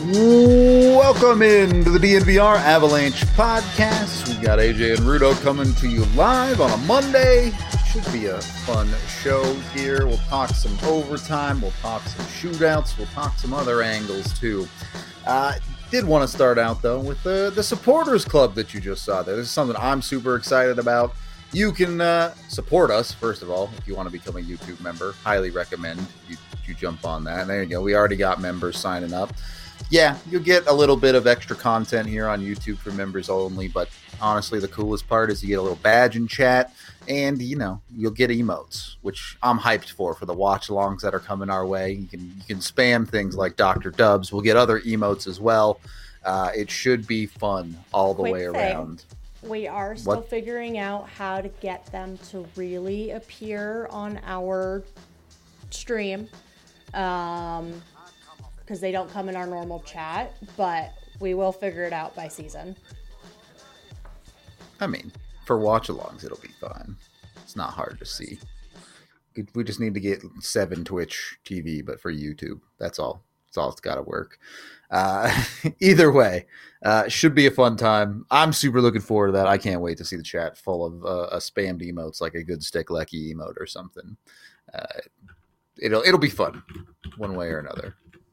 Welcome into the DNVR Avalanche podcast. We got AJ and Rudo coming to you live on a Monday. Should be a fun show here. We'll talk some overtime. We'll talk some shootouts. We'll talk some other angles too. Did want to start out though with the supporters club that you just saw there. This is something I'm super excited about. You can support us, first of all, if you want to become a YouTube member. Highly recommend you jump on that. And there you go. We already got members signing up. Yeah, you'll get a little bit of extra content here on YouTube for members only, but honestly, the coolest part is you get a little badge in chat, and, you know, you'll get emotes, which I'm hyped for the watch-alongs that are coming our way. You can spam things like Dr. Dubs. We'll get other emotes as well. It should be fun all the way around. We are still figuring out how to get them to really appear on our stream. Because they don't come in our normal chat, but we will figure it out by season. I mean, for watch-alongs, it'll be fine. It's not hard to see. We just need to get 7 Twitch TV, but for YouTube. That's all. That's all it's got to work. Either way, should be a fun time. I'm super looking forward to that. I can't wait to see the chat full of spammed emotes, like a good Stick Lecky emote or something. It'll be fun, one way or another.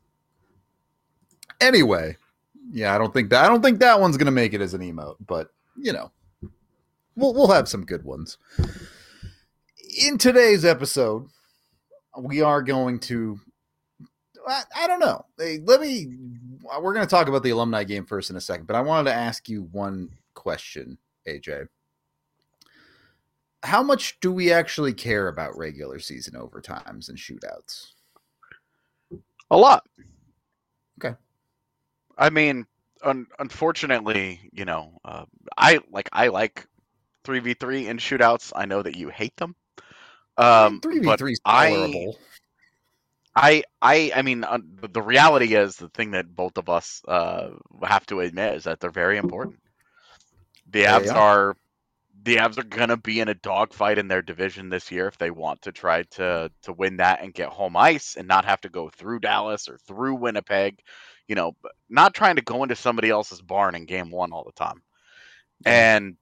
Anyway, yeah, I don't think that one's gonna make it as an emote, but you know, we'll have some good ones. In today's episode, we are going to, I don't know. We're going to talk about the alumni game first in a second, but I wanted to ask you one question, AJ. How much do we actually care about regular season overtimes and shootouts? A lot. Okay. I mean, unfortunately, you know, I like 3v3 and shootouts. I know that you hate them. 3v3 is tolerable. I mean, the reality is, the thing that both of us have to admit is that they're very important. The Avs are going to be in a dogfight in their division this year if they want to try to win that and get home ice and not have to go through Dallas or through Winnipeg. You know, not trying to go into somebody else's barn in game one all the time. And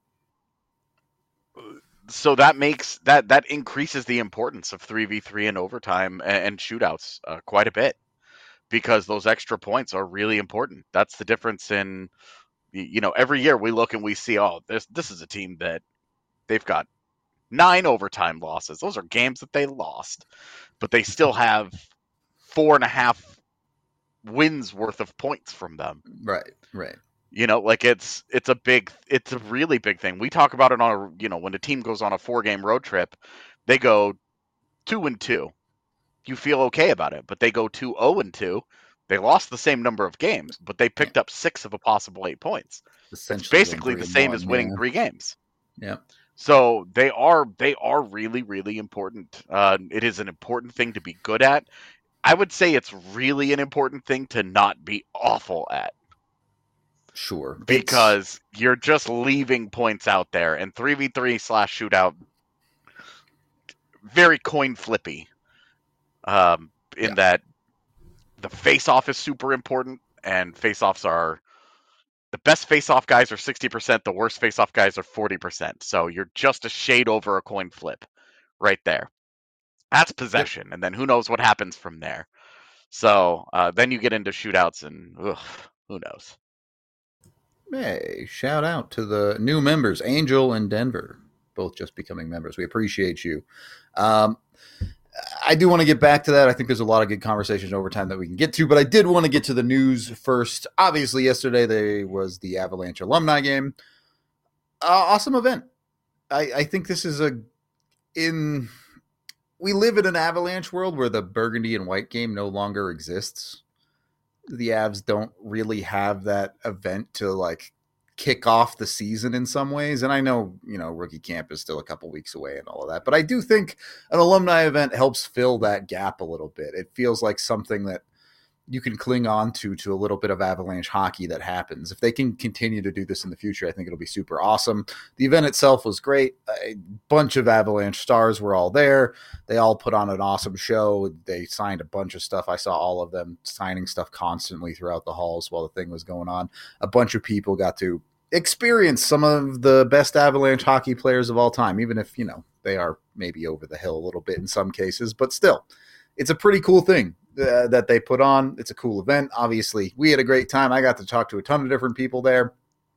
so that makes that increases the importance of 3v3 and overtime and shootouts quite a bit, because those extra points are really important. That's the difference in, you know, every year we look and we see, oh, this is a team that they've got 9 overtime losses. Those are games that they lost, but they still have 4.5 wins worth of points from them. Right. You know, like it's a really big thing. We talk about it on when a team goes on a 4-game road trip, they go 2-2. You feel okay about it, but they go 2-0-2. They lost the same number of games, but they picked up 6 of a possible 8 points. It's basically the same as winning 3 games. Yeah. So they are really, really important. It is an important thing to be good at. I would say it's really an important thing to not be awful at. Sure. Because you're just leaving points out there. And 3v3/shootout, very coin flippy. That the face-off is super important, and face-offs are, the best face-off guys are 60%, the worst face-off guys are 40%. So you're just a shade over a coin flip right there. That's possession, and then who knows what happens from there. So then you get into shootouts, and who knows. Hey, shout out to the new members, Angel and Denver, both just becoming members. We appreciate you. I do want to get back to that. I think there's a lot of good conversations over time that we can get to, but I did want to get to the news first. Obviously, yesterday there was the Avalanche alumni game. Awesome event. I think this is we live in an Avalanche world where the burgundy and white game no longer exists. The Avs don't really have that event to like kick off the season in some ways. And I know, rookie camp is still a couple weeks away and all of that, but I do think an alumni event helps fill that gap a little bit. It feels like something that you can cling on to a little bit of Avalanche hockey that happens. If they can continue to do this in the future, I think it'll be super awesome. The event itself was great. A bunch of Avalanche stars were all there. They all put on an awesome show. They signed a bunch of stuff. I saw all of them signing stuff constantly throughout the halls while the thing was going on. A bunch of people got to experience some of the best Avalanche hockey players of all time, even if, they are maybe over the hill a little bit in some cases, but still, it's a pretty cool thing that they put on. It's a cool event. Obviously, we had a great time. I got to talk to a ton of different people there.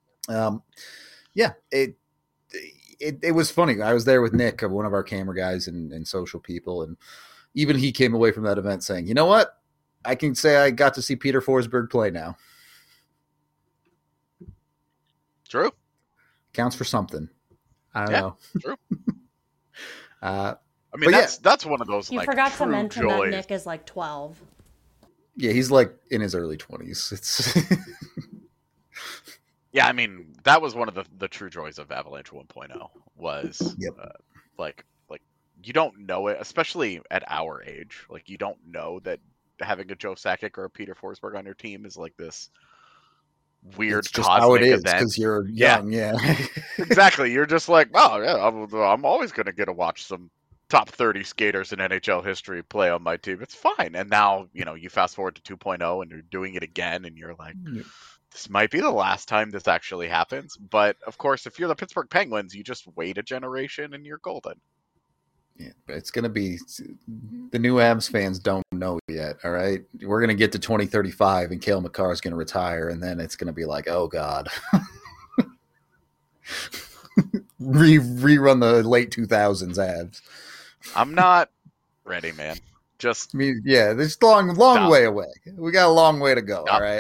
It was funny. I was there with Nick, one of our camera guys and social people, and even he came away from that event saying, you know what? I can say I got to see Peter Forsberg play now. True. Counts for something. I don't know. True. I mean, that's one of those. You like, forgot to mention joys. that Nick is like 12. Yeah, he's like in his early 20s. It's Yeah, I mean, that was one of the true joys of Avalanche 1.0 was like you don't know it, especially at our age. Like, you don't know that having a Joe Sakic or a Peter Forsberg on your team is like this weird it's just cosmic how it is event. because you're young. Yeah. Exactly. You're just like, oh yeah, I'm always going to get to watch some top 30 skaters in NHL history play on my team. It's fine. And now, you fast forward to 2.0 and you're doing it again and you're like, this might be the last time this actually happens. But of course, if you're the Pittsburgh Penguins, you just wait a generation and you're golden. Yeah, it's going to be the new Avs fans don't know yet. All right. We're going to get to 2035 and Cale Makar is going to retire. And then it's going to be like, oh God, rerun the late 2000s Avs. I'm not ready, man. Just there's long way away. We got a long way to go. All right.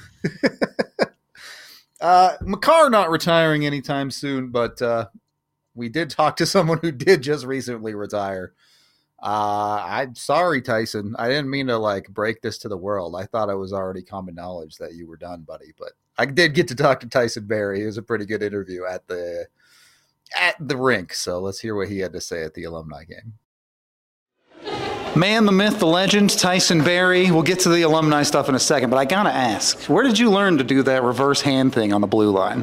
Makar not retiring anytime soon, but we did talk to someone who did just recently retire. I'm sorry, Tyson. I didn't mean to break this to the world. I thought it was already common knowledge that you were done, buddy. But I did get to talk to Tyson Barrie. It was a pretty good interview at the rink. So let's hear what he had to say at the alumni game. Man, the myth, the legend, Tyson Barrie. We'll get to the alumni stuff in a second, but I gotta ask, where did you learn to do that reverse hand thing on the blue line?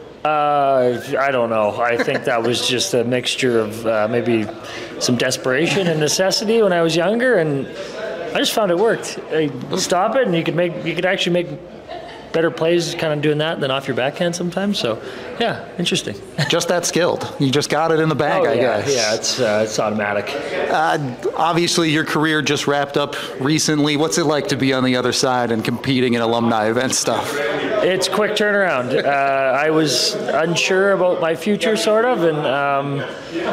I don't know. I think that was just a mixture of maybe some desperation and necessity when I was younger, and I just found it worked. Stop it, and you could actually make better plays kind of doing that than off your backhand sometimes. So, yeah, interesting. Just that skilled. You just got it in the bag, I guess. Yeah, it's automatic. Obviously, your career just wrapped up recently. What's it like to be on the other side and competing in alumni event stuff? It's quick turnaround. I was unsure about my future, sort of, and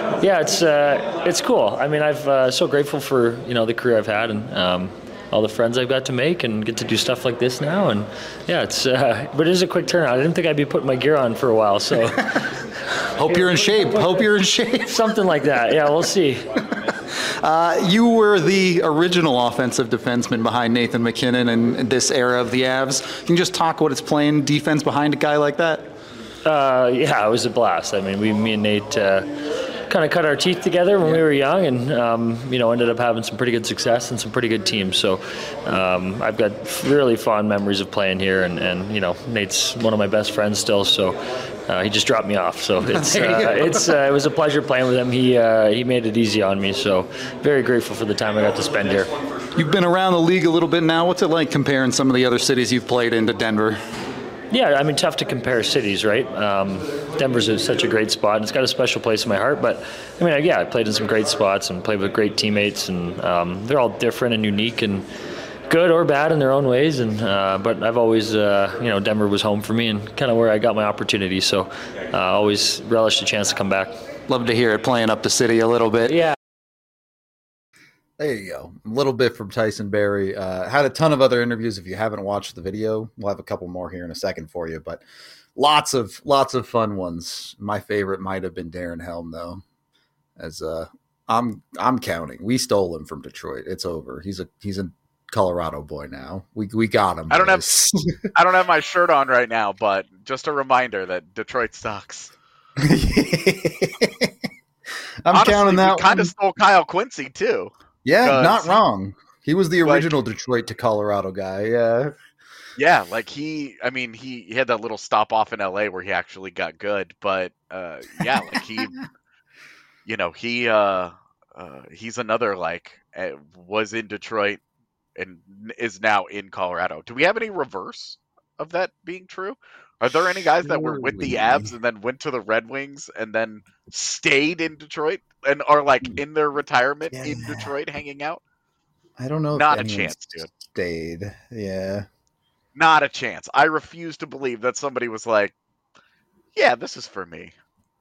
it's cool. I mean, I'm so grateful for the career I've had and all the friends I've got to make and get to do stuff like this now. And yeah, but it is a quick turnaround. I didn't think I'd be putting my gear on for a while, so. Hope you're in shape. Something like that. Yeah, we'll see. You were the original offensive defenseman behind Nathan MacKinnon in this era of the Avs. Can you just talk what it's playing defense behind a guy like that? Yeah, it was a blast. I mean, me and Nate kind of cut our teeth together when we were young and, ended up having some pretty good success and some pretty good teams. So I've got really fond memories of playing here and Nate's one of my best friends still. So he just dropped me off. So it was a pleasure playing with him. He made it easy on me. So very grateful for the time I got to spend here. You've been around the league a little bit now. What's it like comparing some of the other cities you've played in to Denver? Yeah, I mean, tough to compare cities, right? Denver's such a great spot, and it's got a special place in my heart. But, I mean, I played in some great spots and played with great teammates, and they're all different and unique and good or bad in their own ways. And but I've always, Denver was home for me and kind of where I got my opportunity. So always relished a chance to come back. Love to hear it playing up the city a little bit. Yeah. There you go. A little bit from Tyson Barrie. Had a ton of other interviews. If you haven't watched the video, we'll have a couple more here in a second for you. But lots of fun ones. My favorite might have been Darren Helm, though. As I'm counting. We stole him from Detroit. It's over. He's a Colorado boy now. We got him. I don't have my shirt on right now, but just a reminder that Detroit sucks. Honestly, counting that. We kind of stole Kyle Quincy too. Yeah, not wrong. He was the original Detroit to Colorado guy. Yeah. Yeah, like he had that little stop off in LA where he actually got good, but yeah, like he, he's another was in Detroit and is now in Colorado. Do we have any reverse of that being true? Are there any guys that were with the Avs and then went to the Red Wings and then stayed in Detroit and are in their retirement in Detroit hanging out? I don't know. Not a chance, dude. Stayed. Yeah. Not a chance. I refuse to believe that somebody was like, yeah, this is for me.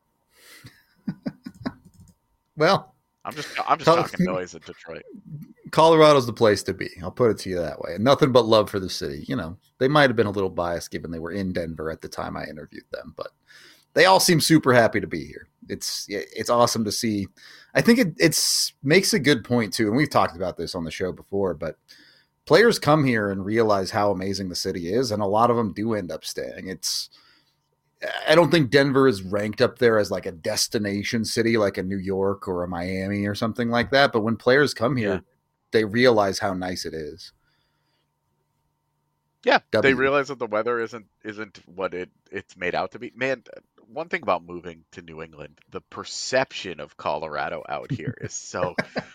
Well, I'm just talking noise at Detroit. Colorado's the place to be. I'll put it to you that way. And nothing but love for the city. They might have been a little biased given they were in Denver at the time I interviewed them, but they all seem super happy to be here. It's awesome to see. I think it makes a good point too. And we've talked about this on the show before, but players come here and realize how amazing the city is. And a lot of them do end up staying. I don't think Denver is ranked up there as like a destination city, like a New York or a Miami or something like that. But when players come here, they realize how nice it is. Yeah, they realize that the weather isn't what it's made out to be. Man, one thing about moving to New England, the perception of Colorado out here is so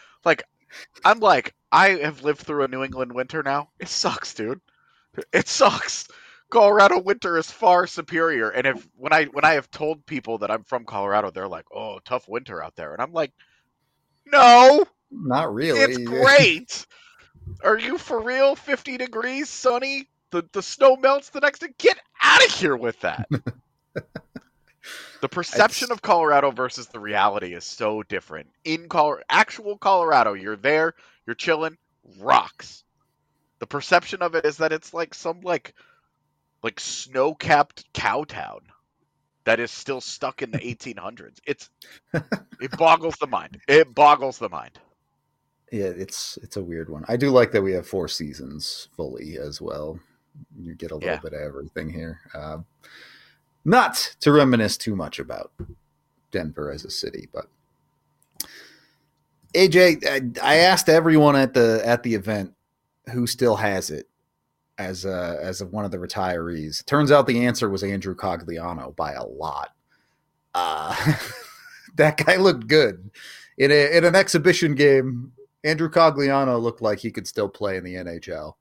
I have lived through a New England winter now. It sucks, dude. It sucks. Colorado winter is far superior. And when I have told people that I'm from Colorado, they're like, "Oh, tough winter out there." And I'm like, "No, not really. It's great. Are you for real? 50 degrees, sunny. The snow melts the next day. Get out of here with that." The perception of Colorado versus the reality is so different. In actual Colorado, you're there, you're chilling, rocks. The perception of it is that it's like some snow-capped cow town that is still stuck in the 1800s. It boggles the mind. It boggles the mind. Yeah, it's a weird one. I do like that we have 4 seasons fully as well. You get a little bit of everything here. Not to reminisce too much about Denver as a city, but AJ, I asked everyone at the event who still has it as one of the retirees. Turns out the answer was Andrew Cogliano by a lot. That guy looked good in an exhibition game. Andrew Cogliano looked like he could still play in the NHL.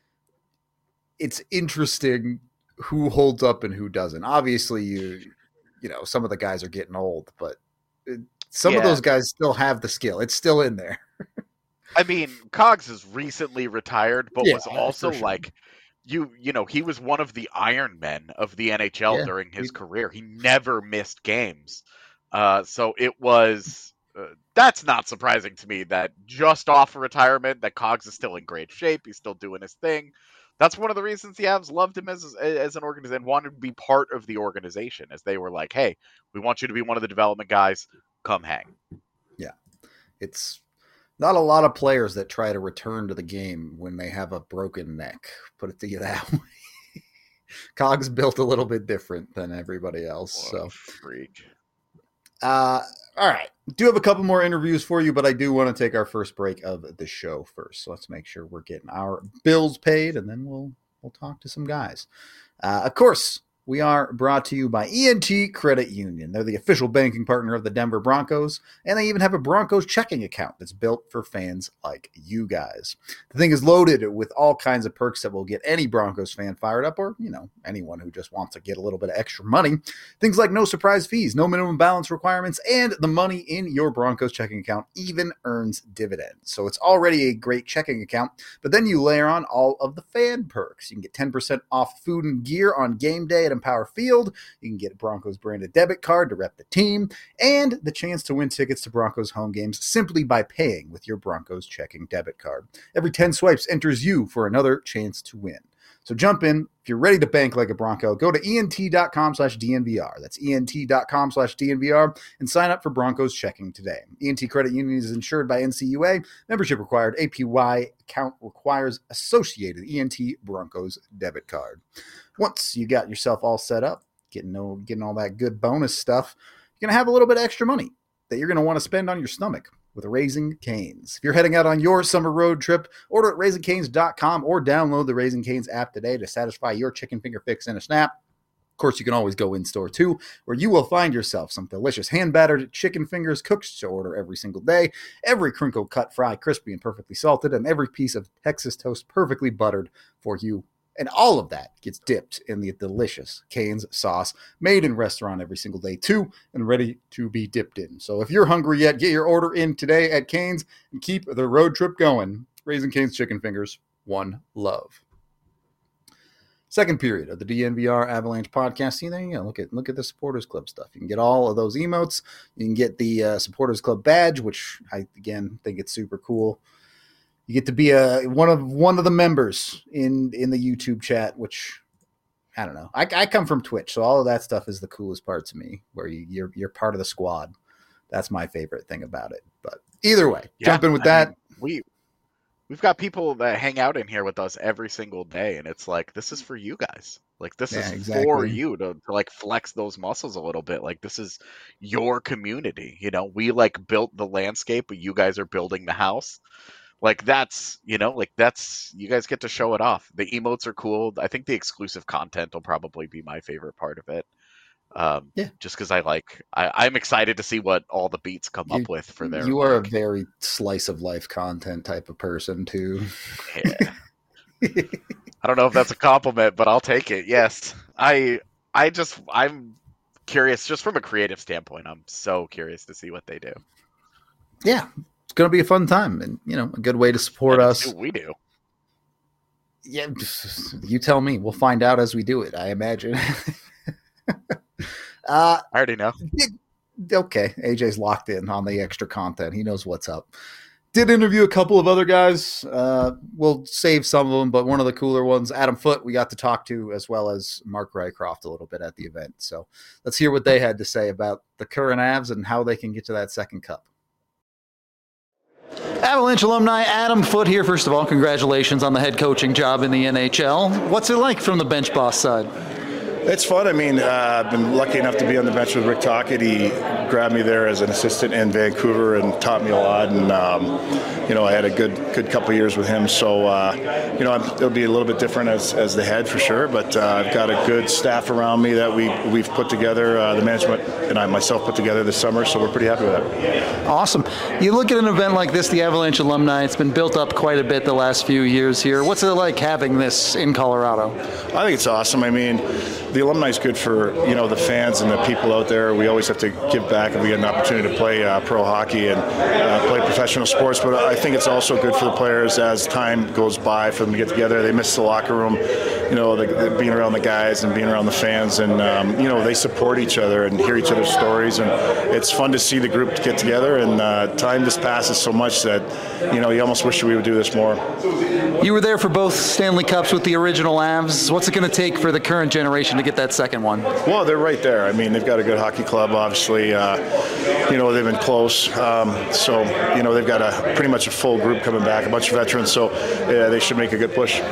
It's interesting who holds up and who doesn't. Obviously, you know, some of the guys are getting old, but some of those guys still have the skill. It's still in there. I mean, Cogs is recently retired, but was also he was one of the Iron Men of the NHL during his career. He never missed games. So it was, that's not surprising to me that just off retirement, that Cogs is still in great shape. He's still doing his thing. That's one of the reasons the Avs loved him as an organization and wanted to be part of the organization, as they were like, hey, we want you to be one of the development guys. Come hang. Yeah. It's not a lot of players that try to return to the game when they have a broken neck. Put it to you that way. Cogs built a little bit different than everybody else. What a freak. All right. Do have a couple more interviews for you, but I do want to take our first break of the show first. So let's make sure we're getting our bills paid, and then we'll talk to some guys. Of course, we are brought to you by ENT Credit Union. They're the official banking partner of the Denver Broncos, and they even have a Broncos checking account that's built for fans like you guys. The thing is loaded with all kinds of perks that will get any Broncos fan fired up, or, anyone who just wants to get a little bit of extra money. Things like no surprise fees, no minimum balance requirements, and the money in your Broncos checking account even earns dividends. So it's already a great checking account, but then you layer on all of the fan perks. You can get 10% off food and gear on game day at Empower Field. You can get a Broncos branded debit card to rep the team, and the chance to win tickets to Broncos home games simply by paying with your Broncos checking debit card. Every 10 swipes enters you for another chance to win. So jump in. If you're ready to bank like a Bronco, go to ENT.com/DNVR. That's ENT.com/DNVR and sign up for Broncos checking today. ENT Credit Union is insured by NCUA. Membership required. APY account requires associated ENT Broncos debit card. Once you got yourself all set up, getting all that good bonus stuff, you're going to have a little bit of extra money that you're going to want to spend on your stomach. with Raising Cane's. If you're heading out on your summer road trip, order at RaisingCane's.com or download the Raising Cane's app today to satisfy your chicken finger fix in a snap. Of course, you can always go in-store too, where you will find yourself some delicious hand-battered chicken fingers cooked to order every single day, every crinkle cut fry crispy and perfectly salted, and every piece of Texas toast perfectly buttered for you. And all of that gets dipped in the delicious Cane's sauce, made in restaurant every single day too, and ready to be dipped in. So if you're hungry yet, get your order in today at Cane's and keep the road trip going. Raising Cane's chicken fingers, one love. Second period of the DNVR Avalanche podcast. See there, you know, look at the Supporters Club stuff. You can get all of those emotes. You can get the Supporters Club badge, which I again think it's super cool. You get to be one of the members in the YouTube chat, which I don't know. I come from Twitch, so all of that stuff is the coolest part to me, where you're part of the squad. That's my favorite thing about it. But either way, jump in with that. We've got people that hang out in here with us every single day, and it's like, this is for you guys. Like, this is exactly for you to like flex those muscles a little bit. Like, this is your community. You know, we like built the landscape, but you guys are building the house. Like, that's, you know, like that's, you guys get to show it off. The emotes are cool. I think the exclusive content will probably be my favorite part of it. Just because I'm excited to see what all the beats come up with for their. You are a very slice of life content type of person too. Yeah. I don't know if that's a compliment, but I'll take it. Yes, I'm curious, just from a creative standpoint. I'm so curious to see what they do. Yeah, it's going to be a fun time, and you know, a good way to support us. We do. Yeah, you tell me. We'll find out as we do it, I imagine. I already know. Okay, AJ's locked in on the extra content. He knows what's up. Did interview a couple of other guys. We'll save some of them, but one of the cooler ones, Adam Foote, we got to talk to, as well as Mark Rycroft a little bit at the event. So let's hear what they had to say about the current Avs and how they can get to that second cup. Avalanche alumni Adam Foote here. First of all, congratulations on the head coaching job in the NHL. What's it like from the bench boss side? It's fun. I mean, I've been lucky enough to be on the bench with Rick Tocchet. He grabbed me there as an assistant in Vancouver and taught me a lot. And, you know, I had a good couple of years with him. So, you know, it'll be a little bit different as the head for sure. But I've got a good staff around me that we've put together, the management and I myself put together this summer. So we're pretty happy with that. Awesome. You look at an event like this, the Avalanche alumni, it's been built up quite a bit the last few years here. What's it like having this in Colorado? I think it's awesome. I mean, the alumni is good for, you know, the fans and the people out there. We always have to give back, and we get an opportunity to play pro hockey and play professional sports. But I think it's also good for the players as time goes by for them to get together. They miss the locker room, you know, being around the guys and being around the fans, and you know, they support each other and hear each other's stories, and it's fun to see the group get together. And time just passes so much that, you know, you almost wish we would do this more. You were there for both Stanley Cups with the original Avs. What's it going to take for the current generation to get that second one? Well, they're right there. I mean, they've got a good hockey club, obviously. You know, they've been close. So, you know, they've got pretty much a full group coming back, a bunch of veterans. So, yeah, they should make a good push.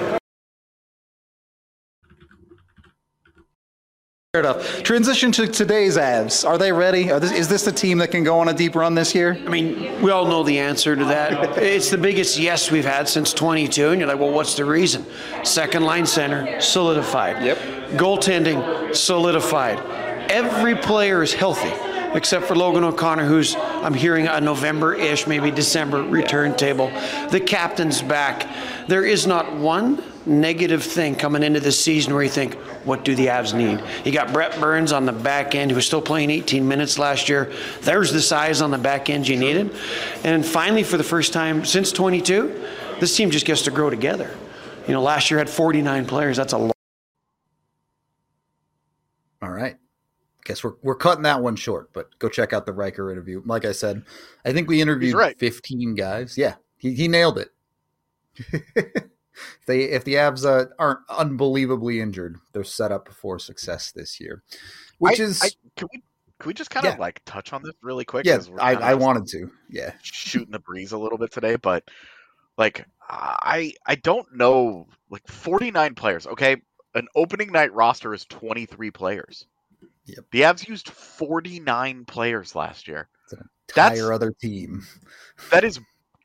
Fair enough. Transition to today's Avs. Are they ready? Is this the team that can go on a deep run this year? I mean, we all know the answer to that. It's the biggest yes we've had since 22, and you're like, well, what's the reason? Second line center, solidified. Yep. Goaltending, solidified. Every player is healthy, except for Logan O'Connor, who's, I'm hearing, a November-ish, maybe December return table. The captain's back. There is not one negative thing coming into this season where you think, what do the Avs need? You got Brett Burns on the back end, who was still playing 18 minutes last year. There's the size on the back end you needed. And finally, for the first time since 22, this team just gets to grow together. You know, last year had 49 players. That's a lot. All right. Guess we're cutting that one short, but go check out the Riker interview. Like I said, I think we interviewed 15 guys. Yeah, he nailed it. If the Avs aren't unbelievably injured, they're set up for success this year. Can we just kind of like touch on this really quick? Yeah, I wanted to. Yeah, shooting the breeze a little bit today, but like I don't know, like 49 players. Okay, an opening night roster is 23 players. Yep. The Avs used 49 players last year. entire other team. That is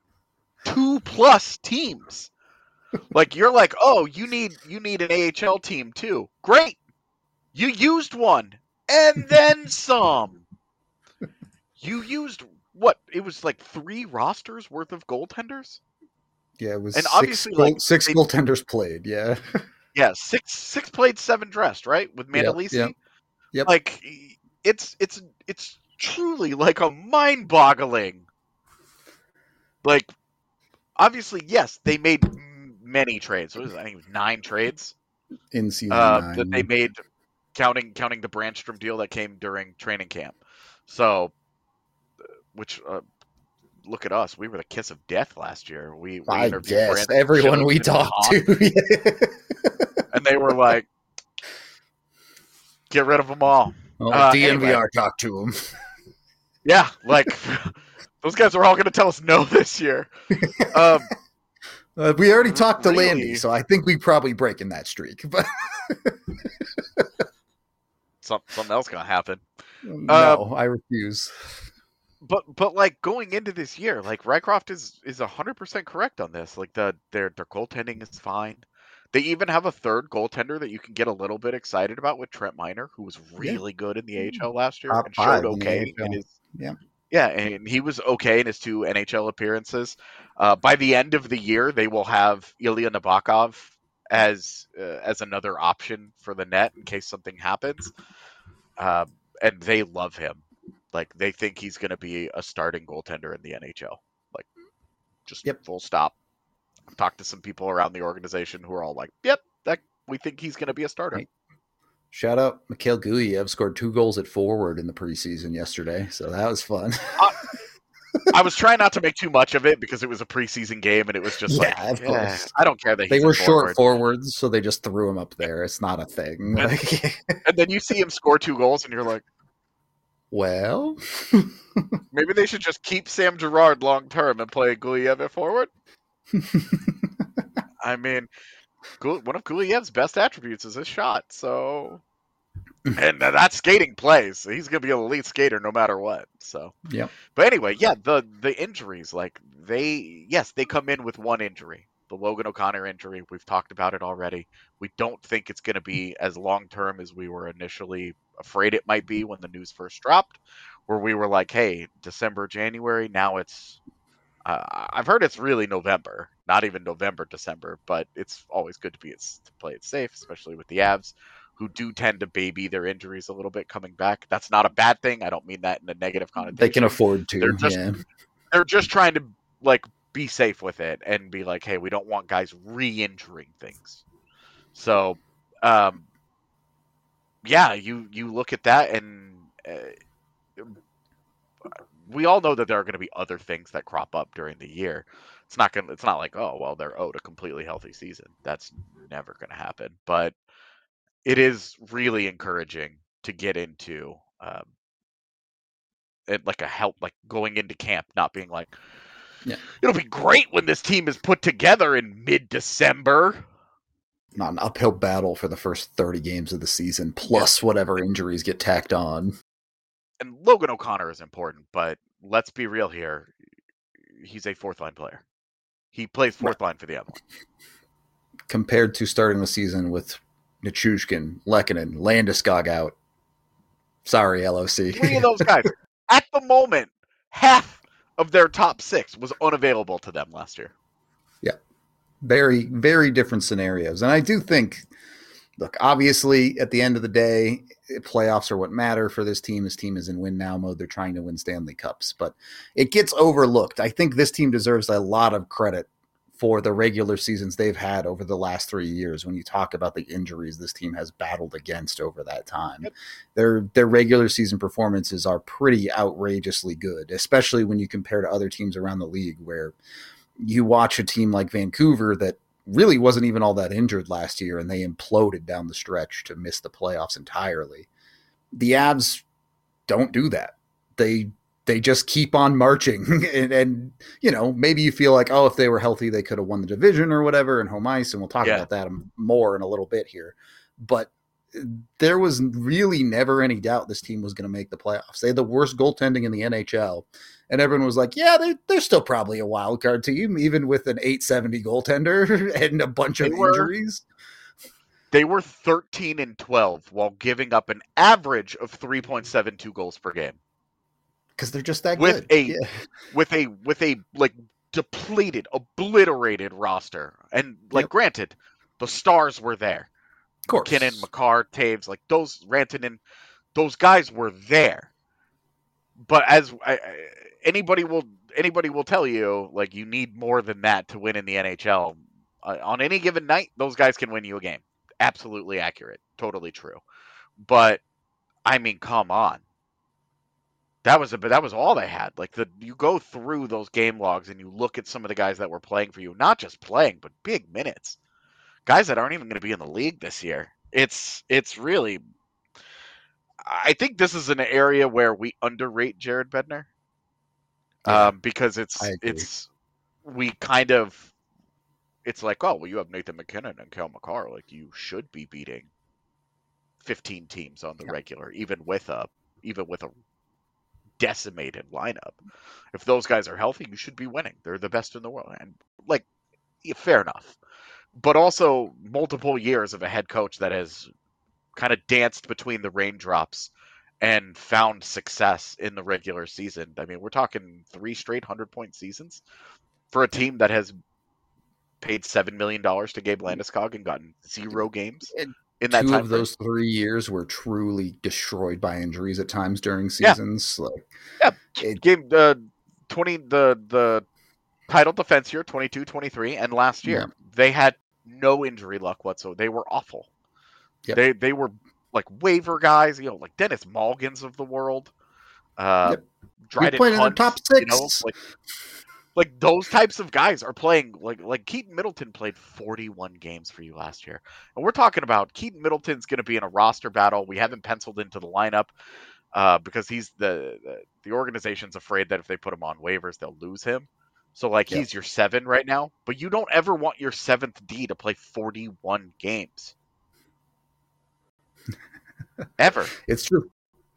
2+ teams. Like, you're like, oh, you need an AHL team too. Great. You used one and then some. You used what? It was like 3 rosters worth of goaltenders. Yeah, it was and 6 obviously six goaltenders played. Yeah. Yeah, 6 played, 7 dressed, right? With Mandolisi. Yep. Like, it's truly like a mind-boggling. Like, obviously, yes, they made many trades. What was it? I think it was 9 trades in season 9 that they made, counting the Brandstrom deal that came during training camp. So, which look at us, we were the kiss of death last year. We interviewed guess Brandon everyone Schilling we talked to, and they were like, "Get rid of them all." DNVR anyway. talked to him. Yeah, like those guys are all going to tell us no this year. We already talked to really? Landy, so I think we probably breaking that streak. But something else going to happen. No, I refuse. But like going into this year, like Rycroft is 100% correct on this. Like their goaltending is fine. They even have a third goaltender that you can get a little bit excited about with Trent Miner, who was really good in the AHL last year Top and 5 showed okay in his yeah, and he was okay in his 2 NHL appearances. By the end of the year, they will have Ilya Nabokov as another option for the net in case something happens, and they love him. Like, they think he's going to be a starting goaltender in the NHL. Like, just full stop. I've talked to some people around the organization who are all like, "Yep, we think he's going to be a starter." Right. Shout out, Mikhail Guyev scored 2 goals at forward in the preseason yesterday, so that was fun. I was trying not to make too much of it because it was a preseason game, and it was just of course. I don't care that they he's were a short forwards, so they just threw him up there. It's not a thing. And then you see him score 2 goals, and you're like, well, maybe they should just keep Sam Girard long term and play Guyev at forward. I mean, one of Guliyev's best attributes is his shot. So, and that's skating plays. So he's going to be an elite skater no matter what. So, yeah. But anyway, yeah, the injuries, like they come in with 1 injury, the Logan O'Connor injury. We've talked about it already. We don't think it's going to be as long term as we were initially afraid it might be when the news first dropped, where we were like, hey, December, January. Now it's I've heard it's really November, not even November, December, but it's always good to play it safe, especially with the Avs, who do tend to baby their injuries a little bit coming back. That's not a bad thing. I don't mean that in a negative connotation. They can afford to. They're just trying to like be safe with it and be like, hey, we don't want guys re-injuring things. So, yeah, you look at that, and we all know that there are going to be other things that crop up during the year. It's not like, oh, well, they're owed a completely healthy season. That's never going to happen. But it is really encouraging to get into it, like going into camp, not being like, it'll be great when this team is put together in mid-December. Not an uphill battle for the first 30 games of the season, plus whatever injuries get tacked on. And Logan O'Connor is important, but let's be real here. He's a 4th-line player. He plays 4th line for the Avalanche. Compared to starting the season with Nichushkin, Lehkonen, Landeskog out. Sorry, LOC. 3 of those guys. At the moment, half of their top 6 was unavailable to them last year. Yeah. Very, very different scenarios. And I do think, look, obviously, at the end of the day, playoffs are what matter for this team. This team is in win now mode. They're trying to win Stanley Cups, but it gets overlooked. I think this team deserves a lot of credit for the regular seasons they've had over the last 3 years. When you talk about the injuries this team has battled against over that time, their regular season performances are pretty outrageously good, especially when you compare to other teams around the league, where you watch a team like Vancouver that really wasn't even all that injured last year, and they imploded down the stretch to miss the playoffs entirely. The Avs don't do that. They just keep on marching, and you know, maybe you feel like, oh, if they were healthy, they could have won the division or whatever in home ice, and we'll talk about that more in a little bit here. But there was really never any doubt this team was going to make the playoffs. They had the worst goaltending in the NHL, And everyone was like, yeah, they're still probably a wild card team, even with an 870 goaltender and a bunch of injuries. They were 13-12 while giving up an average of 3.72 goals per game. Because they're just that with good. With a like depleted, obliterated roster. And granted, the stars were there. Of course. McKinnon, Makar, Taves, like those Rantanen, those guys were there. But as anybody will tell you, like, you need more than that to win in the NHL. On any given night, those guys can win you a game. Absolutely accurate. Totally true. But I mean, come on. That was all they had. Like, you go through those game logs and you look at some of the guys that were playing for you, not just playing, but big minutes. Guys that aren't even going to be in the league this year. It's really, I think this is an area where we underrate Jared Bednar. Because it's like, oh, well, you have Nathan McKinnon and Cale Makar. Like, you should be beating 15 teams on the regular, even with a decimated lineup. If those guys are healthy, you should be winning. They're the best in the world. And, like, fair enough. But also multiple years of a head coach that has kind of danced between the raindrops and found success in the regular season. I mean, we're talking 3 straight 100-point seasons for a team that has paid $7 million to Gabe Landeskog and gotten 0 games in that time. 2 of those 3 years were truly destroyed by injuries at times during seasons. Game the title defense year 22-23 and last year they had no injury luck whatsoever. They were awful. They were like waiver guys, like Dennis Malgins of the world. Dryden played in the top 6. Like those types of guys are playing. Like Keaton Middleton played 41 games for you last year, and we're talking about Keaton Middleton's going to be in a roster battle. We haven't penciled into the lineup because he's the organization's afraid that if they put him on waivers, they'll lose him. So he's your 7 right now, but you don't ever want your 7th D to play 41 games. Ever. It's true.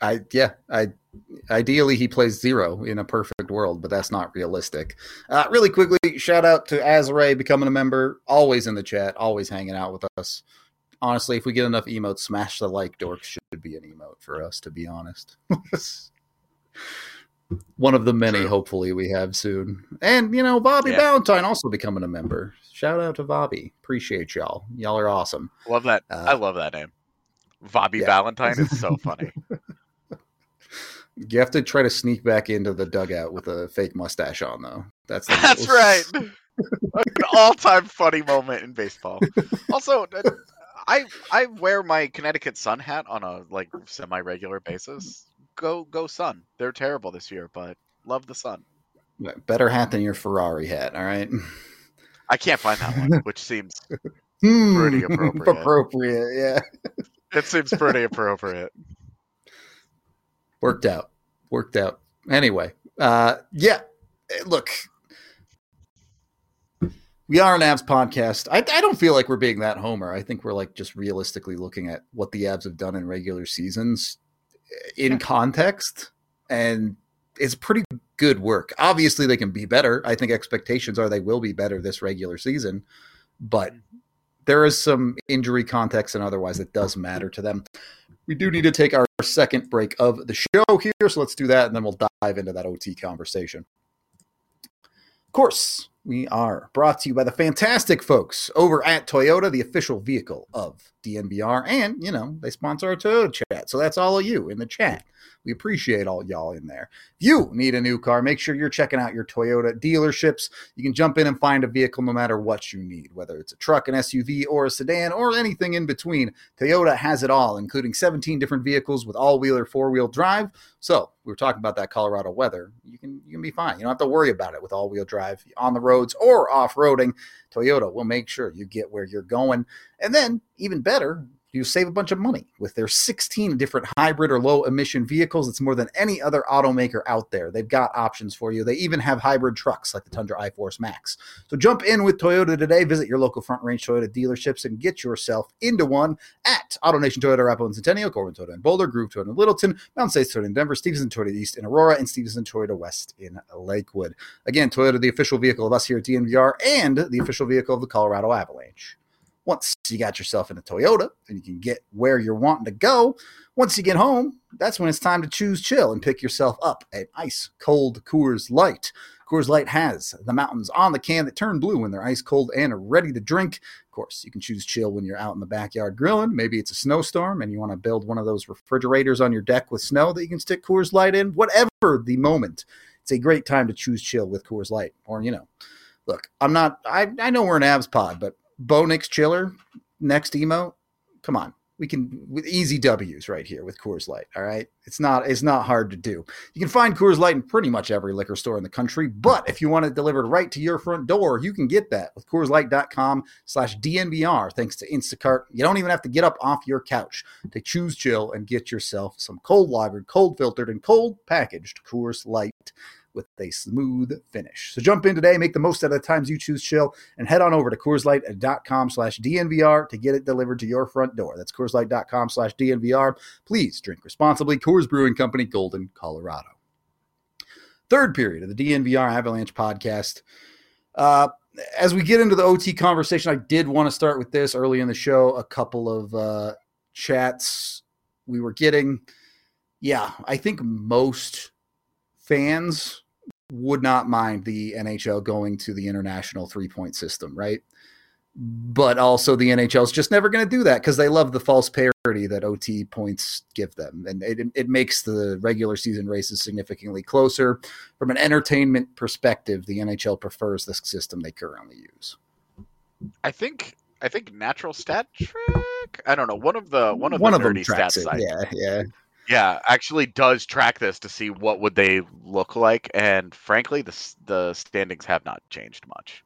Ideally he plays 0 in a perfect world, but that's not realistic. Really quickly, shout out to Azray becoming a member, always in the chat, always hanging out with us. Honestly, if we get enough emotes, smash the like dork should be an emote for us, to be honest. One of the many, hopefully, we have soon. And, Bobby Valentine also becoming a member. Shout out to Bobby. Appreciate y'all. Y'all are awesome. Love that. I love that name. Bobby Valentine is so funny. You have to try to sneak back into the dugout with a fake mustache on, though. That's right. An all-time funny moment in baseball. Also, I wear my Connecticut Sun hat on a semi-regular basis. Go Sun. They're terrible this year, but love the Sun. Better hat than your Ferrari hat, all right? I can't find that one, which seems pretty appropriate. Yeah. It seems pretty appropriate. Worked out. Anyway, look, we are an Avs podcast. I don't feel like we're being that homer. I think we're just realistically looking at what the Avs have done in regular seasons in context, and it's pretty good work. Obviously, they can be better. I think expectations are they will be better this regular season, but there is some injury context and otherwise that does matter to them. We do need to take our second break of the show here, so let's do that, and then we'll dive into that OT conversation. Of course, we are brought to you by the fantastic folks over at Toyota, the official vehicle of DNVR, and, they sponsor our Toyota chat, so that's all of you in the chat. We appreciate all y'all in there. If you need a new car, make sure you're checking out your Toyota dealerships. You can jump in and find a vehicle no matter what you need, whether it's a truck, an SUV, or a sedan, or anything in between. Toyota has it all, including 17 different vehicles with all-wheel or four-wheel drive. So we were talking about that Colorado weather. You can be fine. You don't have to worry about it with all-wheel drive on the roads or off-roading. Toyota will make sure you get where you're going. And then, even better, You save a bunch of money with their 16 different hybrid or low emission vehicles. It's more than any other automaker out there. They've got options for you. They even have hybrid trucks like the Tundra iForce Max. So jump in with Toyota today. Visit your local Front Range Toyota dealerships and get yourself into one at AutoNation Toyota, Arapahoe and Centennial, Corbin Toyota in Boulder, Groove Toyota in Littleton, Mountain States Toyota in Denver, Stevenson Toyota East in Aurora, and Stevenson Toyota West in Lakewood. Again, Toyota, the official vehicle of us here at DNVR and the official vehicle of the Colorado Avalanche. Once you got yourself in a Toyota and you can get where you're wanting to go, once you get home, that's when it's time to choose chill and pick yourself up an ice cold Coors Light. Coors Light has the mountains on the can that turn blue when they're ice cold and are ready to drink. Of course, you can choose chill when you're out in the backyard grilling. Maybe it's a snowstorm and you want to build one of those refrigerators on your deck with snow that you can stick Coors Light in. Whatever the moment, it's a great time to choose chill with Coors Light. Or, look, I know we're an Avs pod, but Bo Nix Chiller, next emote. Come on. We can, with easy W's right here with Coors Light. All right. It's not hard to do. You can find Coors Light in pretty much every liquor store in the country, but if you want it delivered right to your front door, you can get that with CoorsLight.com/DNVR. Thanks to Instacart. You don't even have to get up off your couch to choose chill and get yourself some cold lagered, cold filtered, and cold packaged Coors Light with a smooth finish. So jump in today, make the most out of the times you choose chill, and head on over to CoorsLight.com/DNVR to get it delivered to your front door. That's CoorsLight.com/DNVR. Please drink responsibly. Coors Brewing Company, Golden, Colorado. Third period of the DNVR Avalanche podcast. As we get into the OT conversation, I did want to start with this early in the show. A couple of chats we were getting. Yeah, I think most fans would not mind the NHL going to the international 3-point system, right? But also the NHL is just never going to do that because they love the false parity that OT points give them. And it makes the regular season races significantly closer. From an entertainment perspective, the NHL prefers the system they currently use. I think natural stat trick. I don't know. One of the nerdy stat sites. Yeah, actually does track this to see what would they look like, and frankly, the standings have not changed much.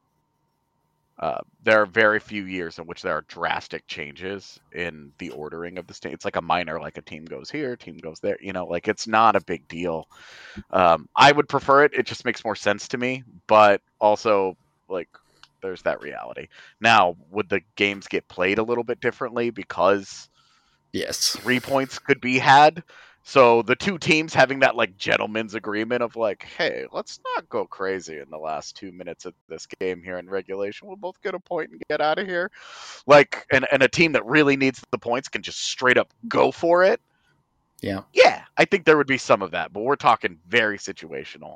There are very few years in which there are drastic changes in the ordering of the standings. It's like a minor, like a team goes here, team goes there. It's not a big deal. I would prefer it. It just makes more sense to me, but also there's that reality. Now, would the games get played a little bit differently because? Yes. 3 points could be had. So the two teams having that gentleman's agreement of hey, let's not go crazy in the last 2 minutes of this game here in regulation. We'll both get a point and get out of here. And a team that really needs the points can just straight up go for it. Yeah. Yeah, I think there would be some of that, but we're talking very situational,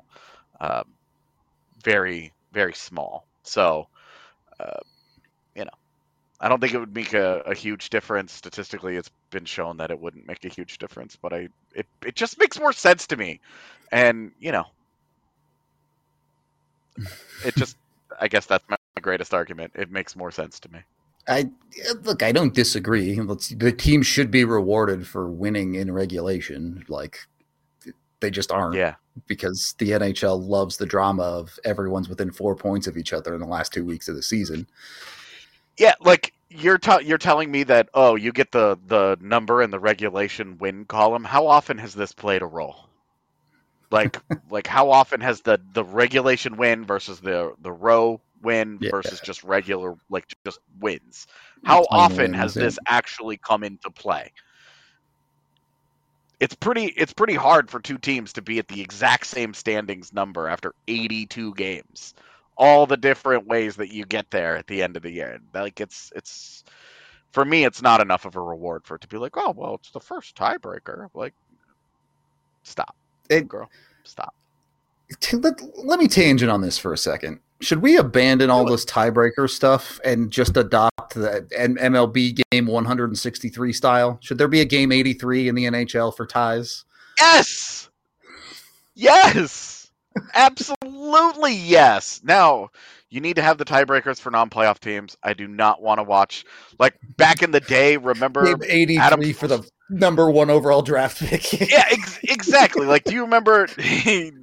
very, very small. So, I don't think it would make a huge difference. Statistically, it's been shown that it wouldn't make a huge difference, but it just makes more sense to me. And, I guess that's my greatest argument. It makes more sense to me. I don't disagree. The team should be rewarded for winning in regulation. They just aren't. Yeah. Because the NHL loves the drama of everyone's within 4 points of each other in the last 2 weeks of the season. Yeah, you're telling me that you get the number in the regulation win column. How often has this played a role? How often has the regulation win versus the row win versus just regular just wins? How often has this actually come into play? It's pretty hard for two teams to be at the exact same standings number after 82 games. All the different ways that you get there at the end of the year. It's for me, it's not enough of a reward for it to be oh, well, it's the first tiebreaker. Stop. Girl, stop. Let me tangent on this for a second. Should we abandon all this tiebreaker stuff and just adopt the MLB game 163 style? Should there be a game 83 in the NHL for ties? Yes! Yes! Absolutely yes. Now, you need to have the tiebreakers for non-playoff teams. I do not want to watch back in the day. Remember Game 83 for the number 1 overall draft pick? Yeah, exactly. Do you remember?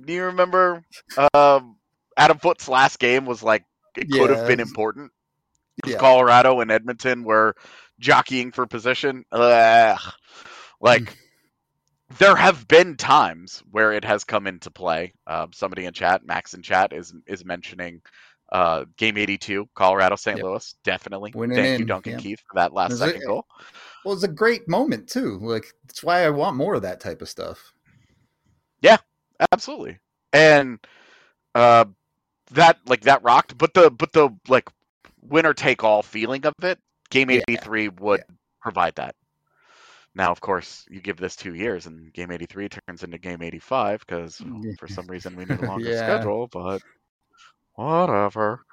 Adam Foote's last game was it could have been important. If Colorado and Edmonton were jockeying for position, like there have been times where it has come into play. Somebody in chat, Max in chat, is mentioning game 82, Colorado St. Louis. Definitely. Thank you, Duncan Keith, for that last second goal. Well, it's a great moment too. Like, that's why I want more of that type of stuff. Yeah, absolutely. And that rocked, but the like winner take all feeling of it, game 83 would provide that. Now, of course, you give this 2 years, and game 83 turns into game 85 because for some reason we need a longer schedule. But whatever.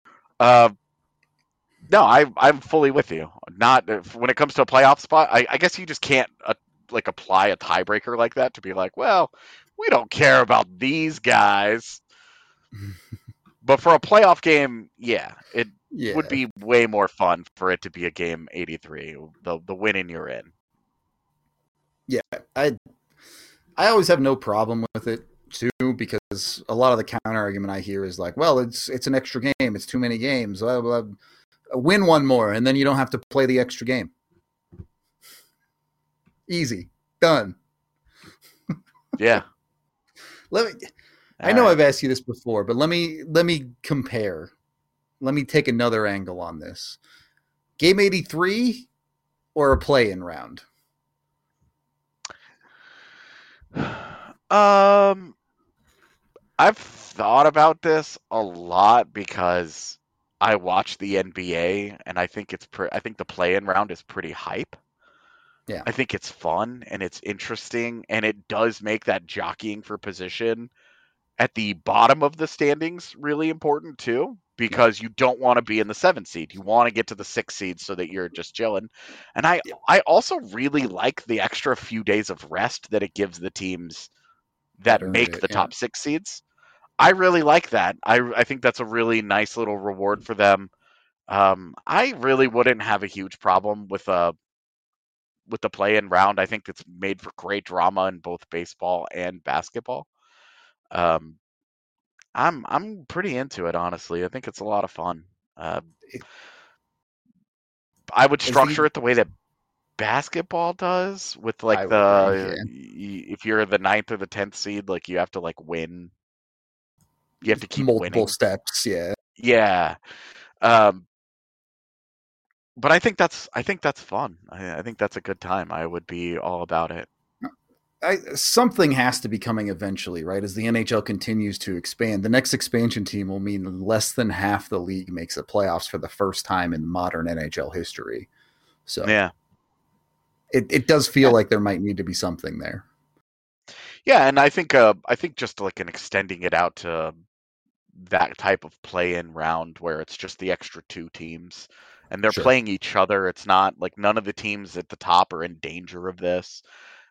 No, I'm fully with you. Not when it comes to a playoff spot. I guess you just can't apply a tiebreaker like that to be like, well, we don't care about these guys. But for a playoff game, it would be way more fun for it to be a game 83, the winning you're in. Yeah, I always have no problem with it too, because a lot of the counter argument I hear is like, well, it's an extra game, it's too many games. Blah, blah, blah. Win one more, and then you don't have to play the extra game. Easy, done. Yeah. I know I've asked you this before, but let me compare. Let me take another angle on this. Game 83 or a play-in round? I've thought about this a lot because I watch the NBA, and I think I think the play-in round is pretty hype. Yeah. I think it's fun and it's interesting, and it does make that jockeying for position at the bottom of the standings really important too, because you don't want to be in the 7th seed. You want to get to the 6th seed so that you're just chilling. And I also really like the extra few days of rest that it gives the teams that make the top 6 seeds. I really like that. I think that's a really nice little reward for them. I really wouldn't have a huge problem with the play-in round. I think it's made for great drama in both baseball and basketball. I'm pretty into it, honestly. I think it's a lot of fun. I would structure it the way that basketball does, with if you're the 9th or the 10th seed, like you have to win. You have to keep multiple winning. steps. Yeah. Yeah. But I think that's fun. I think that's a good time. I would be all about it. Something has to be coming eventually, right? As the NHL continues to expand, the next expansion team will mean less than half the league makes the playoffs for the first time in modern NHL history. So yeah, it does feel like there might need to be something there. Yeah, and I think just an extending it out to that type of play-in round where it's just the extra 2 teams and they're playing each other. It's not like none of the teams at the top are in danger of this.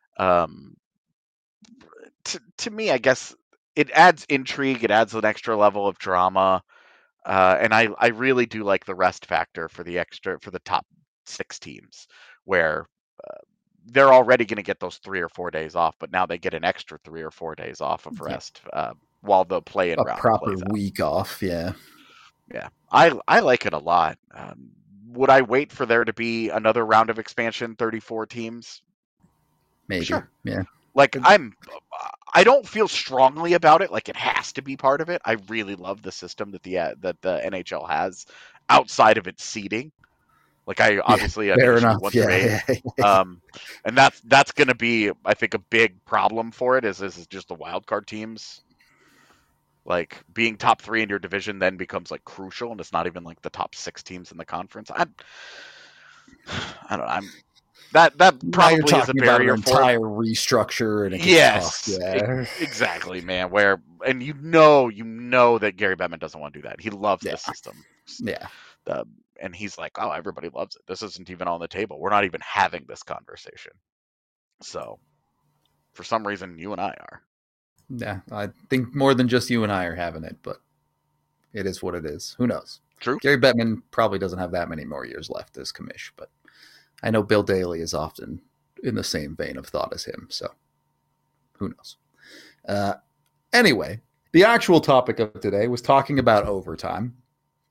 To me, I guess it adds intrigue. It adds an extra level of drama. And I really do like the rest factor for the top 6 teams, where they're already going to get those 3 or 4 days off, but now they get an extra 3 or 4 days off of rest while the play-in round proper plays week out. Off. Yeah. I like it a lot. Would I wait for there to be another round of expansion, 34 teams? Maybe. Sure. Yeah. I don't feel strongly about it. Like it has to be part of it. I really love the system that the NHL has outside of its seeding. Like I obviously fair enough. And that's going to be, I think, a big problem for it. Is just the wild card teams. Like being top 3 in your division then becomes crucial, and it's not even the top 6 teams in the conference. I don't know. That probably is a barrier for entire restructure, and it gets tough. Yeah. Exactly, man. And you know that Gary Bettman doesn't want to do that. He loves the system. Yeah. And he's like, oh, everybody loves it. This isn't even on the table. We're not even having this conversation. So, for some reason, you and I are. Yeah, I think more than just you and I are having it, but it is what it is. Who knows? True. Gary Bettman probably doesn't have that many more years left as commish, but I know Bill Daly is often in the same vein of thought as him, so who knows? Anyway, the actual topic of today was talking about overtime.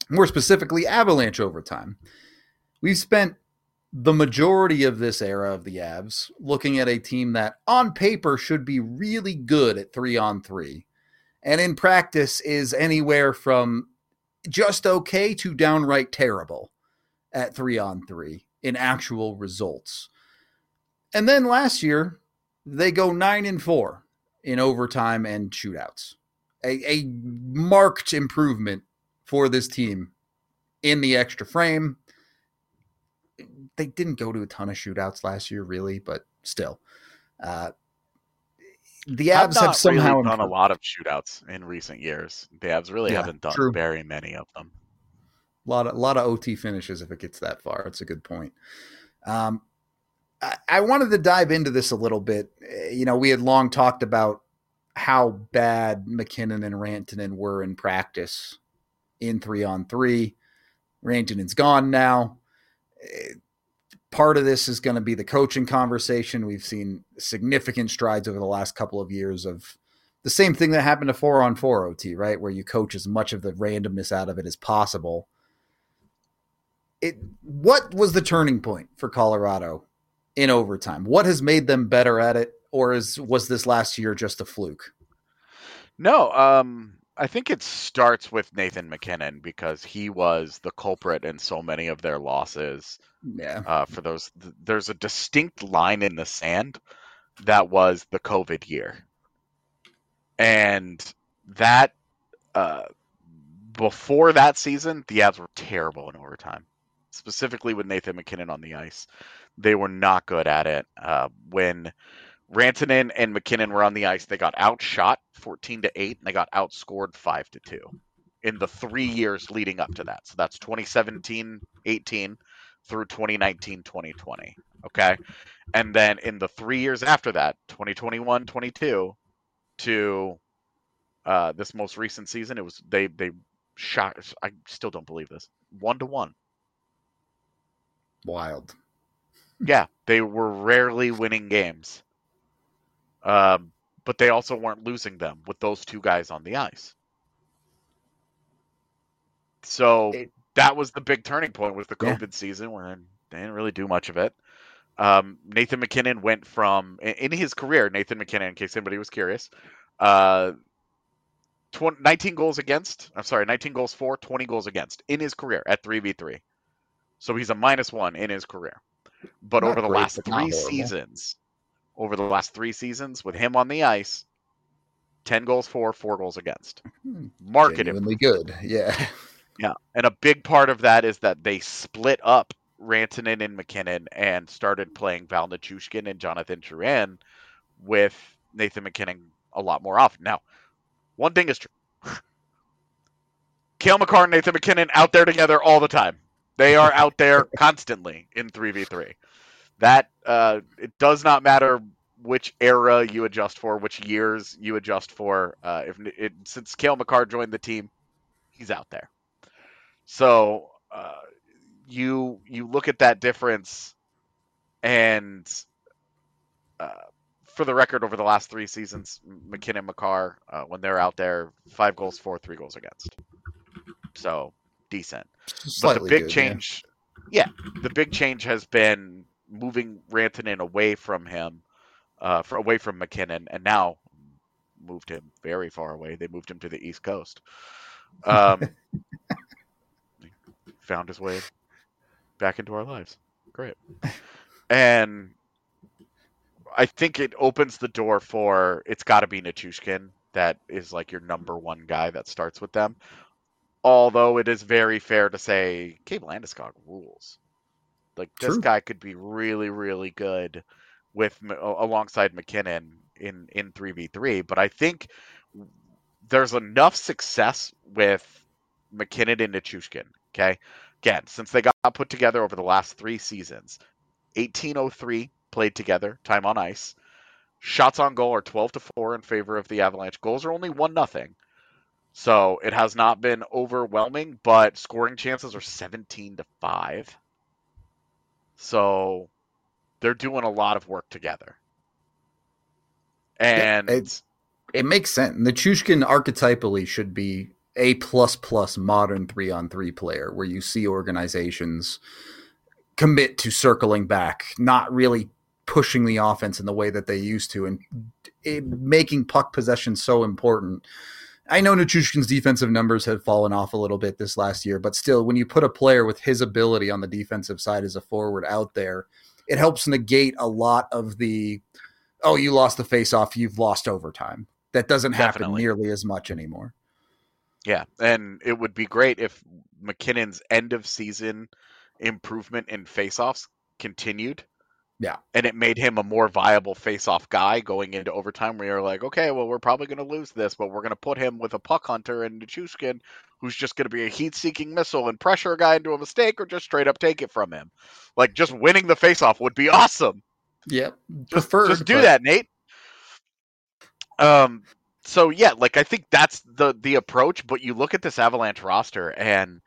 more specifically Avalanche overtime. We've spent the majority of this era of the Avs looking at a team that on paper should be really good at 3-on-3, and in practice is anywhere from just okay to downright terrible at 3-on-3 in actual results. And then last year, they go 9-4 in overtime and shootouts. A marked improvement for this team in the extra frame. They didn't go to a ton of shootouts last year, really, but still. The Avs have somehow really done a lot of shootouts in recent years. The Avs really haven't done very many of them. A lot of OT finishes if it gets that far. It's a good point. I wanted to dive into this a little bit. We had long talked about how bad MacKinnon and Rantanen were in practice in 3-on-3. Rantanen's gone now. Part of this is going to be the coaching conversation. We've seen significant strides over the last couple of years of the same thing that happened to 4-on-4 OT, right? Where you coach as much of the randomness out of it as possible. What was the turning point for Colorado in overtime? What has made them better at it? Or was this last year just a fluke? No, I think it starts with Nathan MacKinnon because he was the culprit in so many of their losses. Yeah. For those, there's a distinct line in the sand that was the COVID year. And that, before that season, the Avs were terrible in overtime, specifically with Nathan MacKinnon on the ice. They were not good at it. When Rantanen and MacKinnon were on the ice, they got outshot 14-8, and they got outscored 5-2 in the 3 years leading up to that. So that's 2017-18 through 2019-2020. Okay. And then in the 3 years after that, 2021-22 to this most recent season, it was they shot. I still don't believe this. 1-1. Wild. Yeah, they were rarely winning games. But they also weren't losing them with those two guys on the ice. So that was the big turning point with the COVID season where they didn't really do much of it. Nathan MacKinnon went from, in his career, Nathan MacKinnon, in case anybody was curious, 19 goals for, 20 goals against in his career at 3v3. So he's a -1 in his career. But over the last 3 seasons, with him on the ice, 10 goals for, 4 goals against. Genuinely good. Yeah. Yeah. And a big part of that is that they split up Rantanen and MacKinnon and started playing Val Nichushkin and Jonathan Drouin with Nathan MacKinnon a lot more often. Now, one thing is true. Cale Makar and Nathan MacKinnon out there together all the time. They are out there constantly in 3v3. That it does not matter which era you adjust for, which years you adjust for. Since Cale Makar joined the team, he's out there. So you look at that difference, and for the record, over the last 3 seasons, MacKinnon, Makar, when they're out there, 5 goals for, 3 goals against. So decent. But the big change, the big change has been moving Rantanen away from him, away from MacKinnon, and now moved him very far away. They moved him to the East Coast. Found his way back into our lives. Great. And I think it opens the door for, it's got to be Nichushkin that is like your number one guy that starts with them. Although it is very fair to say, Gabe Landeskog rules. Like, this guy could be really, really good alongside MacKinnon in 3v3. But I think there's enough success with MacKinnon and Nichushkin. Okay, again, since they got put together over the last 3 seasons, 1803 played together, time on ice. Shots on goal are 12-4 in favor of the Avalanche. Goals are only 1-0. So it has not been overwhelming, but scoring chances are 17-5. So they're doing a lot of work together. And it makes sense. Nichushkin archetypally should be A++ modern 3-on-3 player where you see organizations commit to circling back, not really pushing the offense in the way that they used to, and making puck possession so important. I know Nichushkin's defensive numbers have fallen off a little bit this last year, but still, when you put a player with his ability on the defensive side as a forward out there, it helps negate a lot of the, oh, you lost the faceoff, you've lost overtime. That doesn't happen nearly as much anymore. Yeah, and it would be great if MacKinnon's end of season improvement in faceoffs continued. Yeah. And it made him a more viable face-off guy going into overtime where you're like, okay, well, we're probably going to lose this, but we're going to put him with a puck hunter and Nichushkin, who's just going to be a heat-seeking missile and pressure a guy into a mistake or just straight up take it from him. Like, just winning the face-off would be awesome. Yep. Just do that, Nate. So, yeah, like, I think that's the approach, but you look at this Avalanche roster, and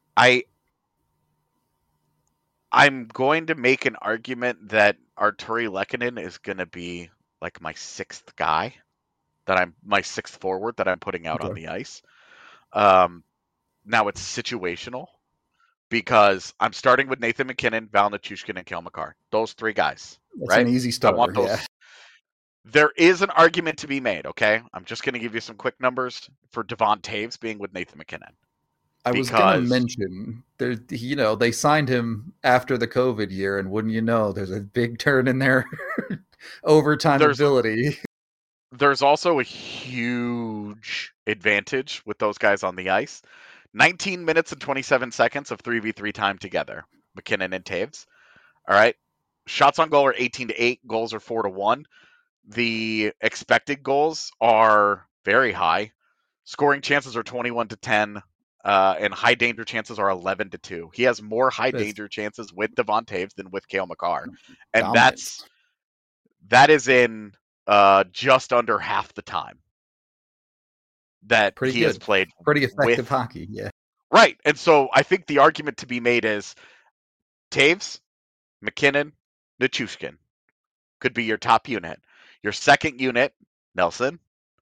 I'm going to make an argument that Artturi Lehkonen is going to be like my sixth guy, my sixth forward that I'm putting out on the ice. Now it's situational because I'm starting with Nathan MacKinnon, Val Nichushkin, and Cale Makar. Those three guys. That's right? an easy starter. I want those. Yeah. There is an argument to be made, okay? I'm just going to give you some quick numbers for Devon Toews being with Nathan MacKinnon. I was going to mention, they signed him after the COVID year, and wouldn't you know, there's a big turn in their overtime ability. There's also a huge advantage with those guys on the ice. 19 minutes and 27 seconds of 3v3 time together, MacKinnon and Toews. All right. Shots on goal are 18-8. Goals are 4-1. The expected goals are very high. Scoring chances are 21-10. And high danger chances are 11-2. He has more high danger chances with Devon Toews than with Cale Makar, and that is in just under half the time that he has played. Pretty effective hockey, yeah. Right, and so I think the argument to be made is Toews, MacKinnon, Nichushkin could be your top unit. Your second unit, Nelson,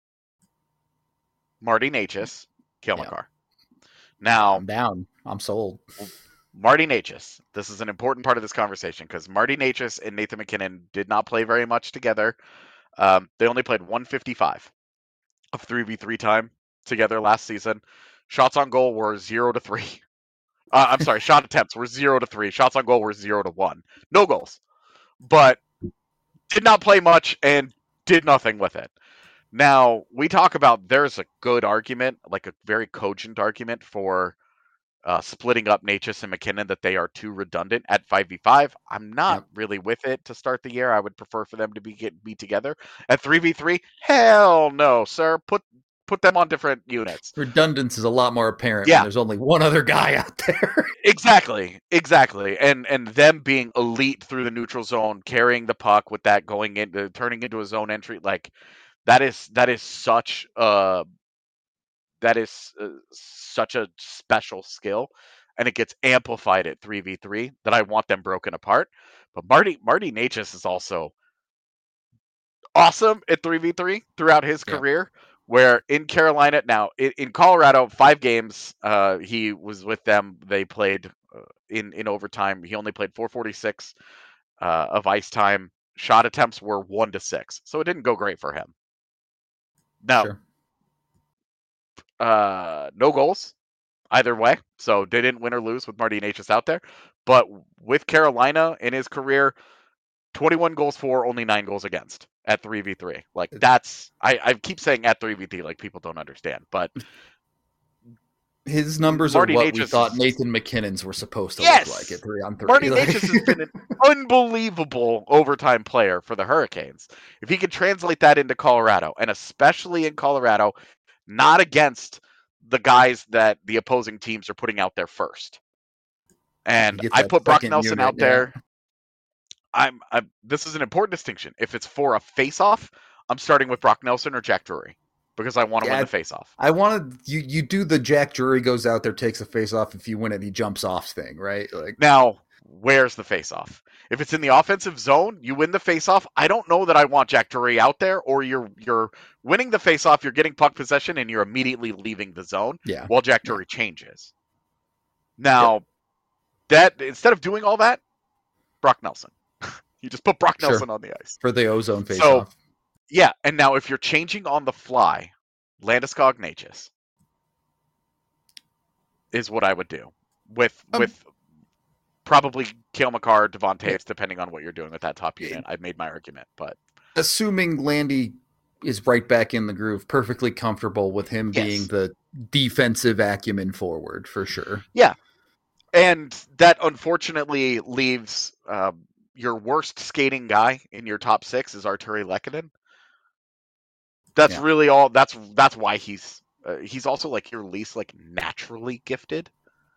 Marty Necas, Cale Makar. Now, I'm down. I'm sold. Marty Necas. This is an important part of this conversation because Marty Necas and Nathan MacKinnon did not play very much together. They only played 155 of 3v3 time together last season. Shots on goal were 0-3. I'm sorry, shot attempts were 0-3. Shots on goal were 0-1. No goals. But did not play much and did nothing with it. Now, we talk about there's a good argument, like a very cogent argument for splitting up Necas and MacKinnon, that they are too redundant at 5v5. I'm not really with it to start the year. I would prefer for them to be together. At 3v3, hell no, sir. Put them on different units. Redundance is a lot more apparent when there's only one other guy out there. Exactly. And them being elite through the neutral zone, carrying the puck with that going into turning into a zone entry, like that is such a special skill, and it gets amplified at 3v3 that I want them broken apart. But Marty Necas is also awesome at 3v3 throughout his career, where in Carolina, now in Colorado, 5 games he was with them. They played in overtime. He only played 446 of ice time. Shot attempts were 1-6, so it didn't go great for him. Now, no goals either way, so they didn't win or lose with Marty Necas out there. But with Carolina in his career, 21 goals for, only 9 goals against at 3v3. Like, that's I keep saying at 3v3 like people don't understand, but his numbers Marty are what Necas we thought Nathan MacKinnon's were supposed to look like at 3-on-3. Marty Necas has been an unbelievable overtime player for the Hurricanes. If he could translate that into Colorado, and especially in Colorado, not against the guys that the opposing teams are putting out there first. And I put Brock Nelson out there. This is an important distinction. If it's for a face-off, I'm starting with Brock Nelson or Jack Drury because I want to win the face-off. I want to. You do the Jack Drury goes out there, takes a face-off. If you win it, he jumps off thing, right? Like now, where's the face-off? If it's in the offensive zone, you win the face-off. I don't know that I want Jack Drury out there, or you're winning the face-off, you're getting puck possession, and you're immediately leaving the zone while Jack Drury changes. Now, that instead of doing all that, Brock Nelson. You just put Brock Nelson on the ice. For the ozone face-off. So, yeah, and now if you're changing on the fly, Landeskog Ignatius is what I would do. With probably Cale Makar, Devon Toews, depending on what you're doing with that top unit. I've made my argument, but assuming Landy is right back in the groove, perfectly comfortable with him being the defensive acumen forward for sure. Yeah, and that unfortunately leaves your worst skating guy in your top 6 is Artturi Lehkonen. That's really all. That's why he's also like your least like naturally gifted.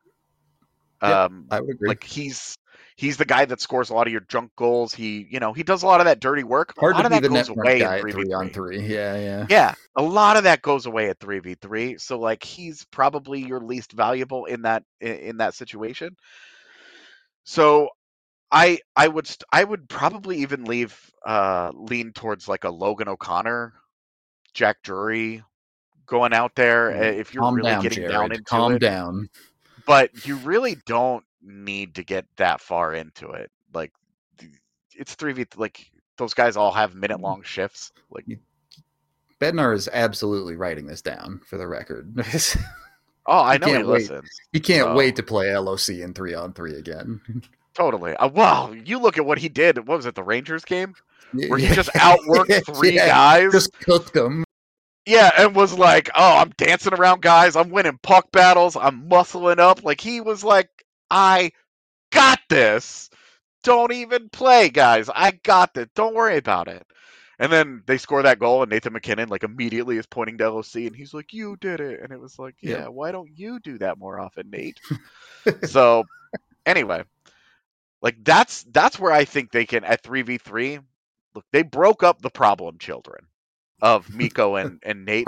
I would agree. Like he's the guy that scores a lot of your junk goals. He does a lot of that dirty work. Hard a lot to of be that the goes net away guy in 3v3. Yeah. Yeah, a lot of that goes away at 3v3. So like he's probably your least valuable in that situation. So I would probably even lean towards like a Logan O'Connor, Jack Drury going out there if you're really getting Jared. down into Calm it. down. But you really don't need to get that far into it. Like it's 3v, like those guys all have minute-long shifts. Like Bednar is absolutely writing this down for the record. Oh, I know he listens. He can't wait to play LOC in 3-on-3 again. Totally. Wow, you look at what he did. What was it, the Rangers game? Where he just outworked 3 guys. Just cooked them. Yeah, and was like, oh, I'm dancing around guys. I'm winning puck battles. I'm muscling up. Like, he was like, I got this. Don't even play, guys. I got this. Don't worry about it. And then they score that goal, and Nathan MacKinnon, like, immediately is pointing to LOC, and he's like, you did it. And it was like, yeah, why don't you do that more often, Nate? So, anyway, like, that's where I think they can, at 3v3, look, they broke up the problem children of Mikko and Nate.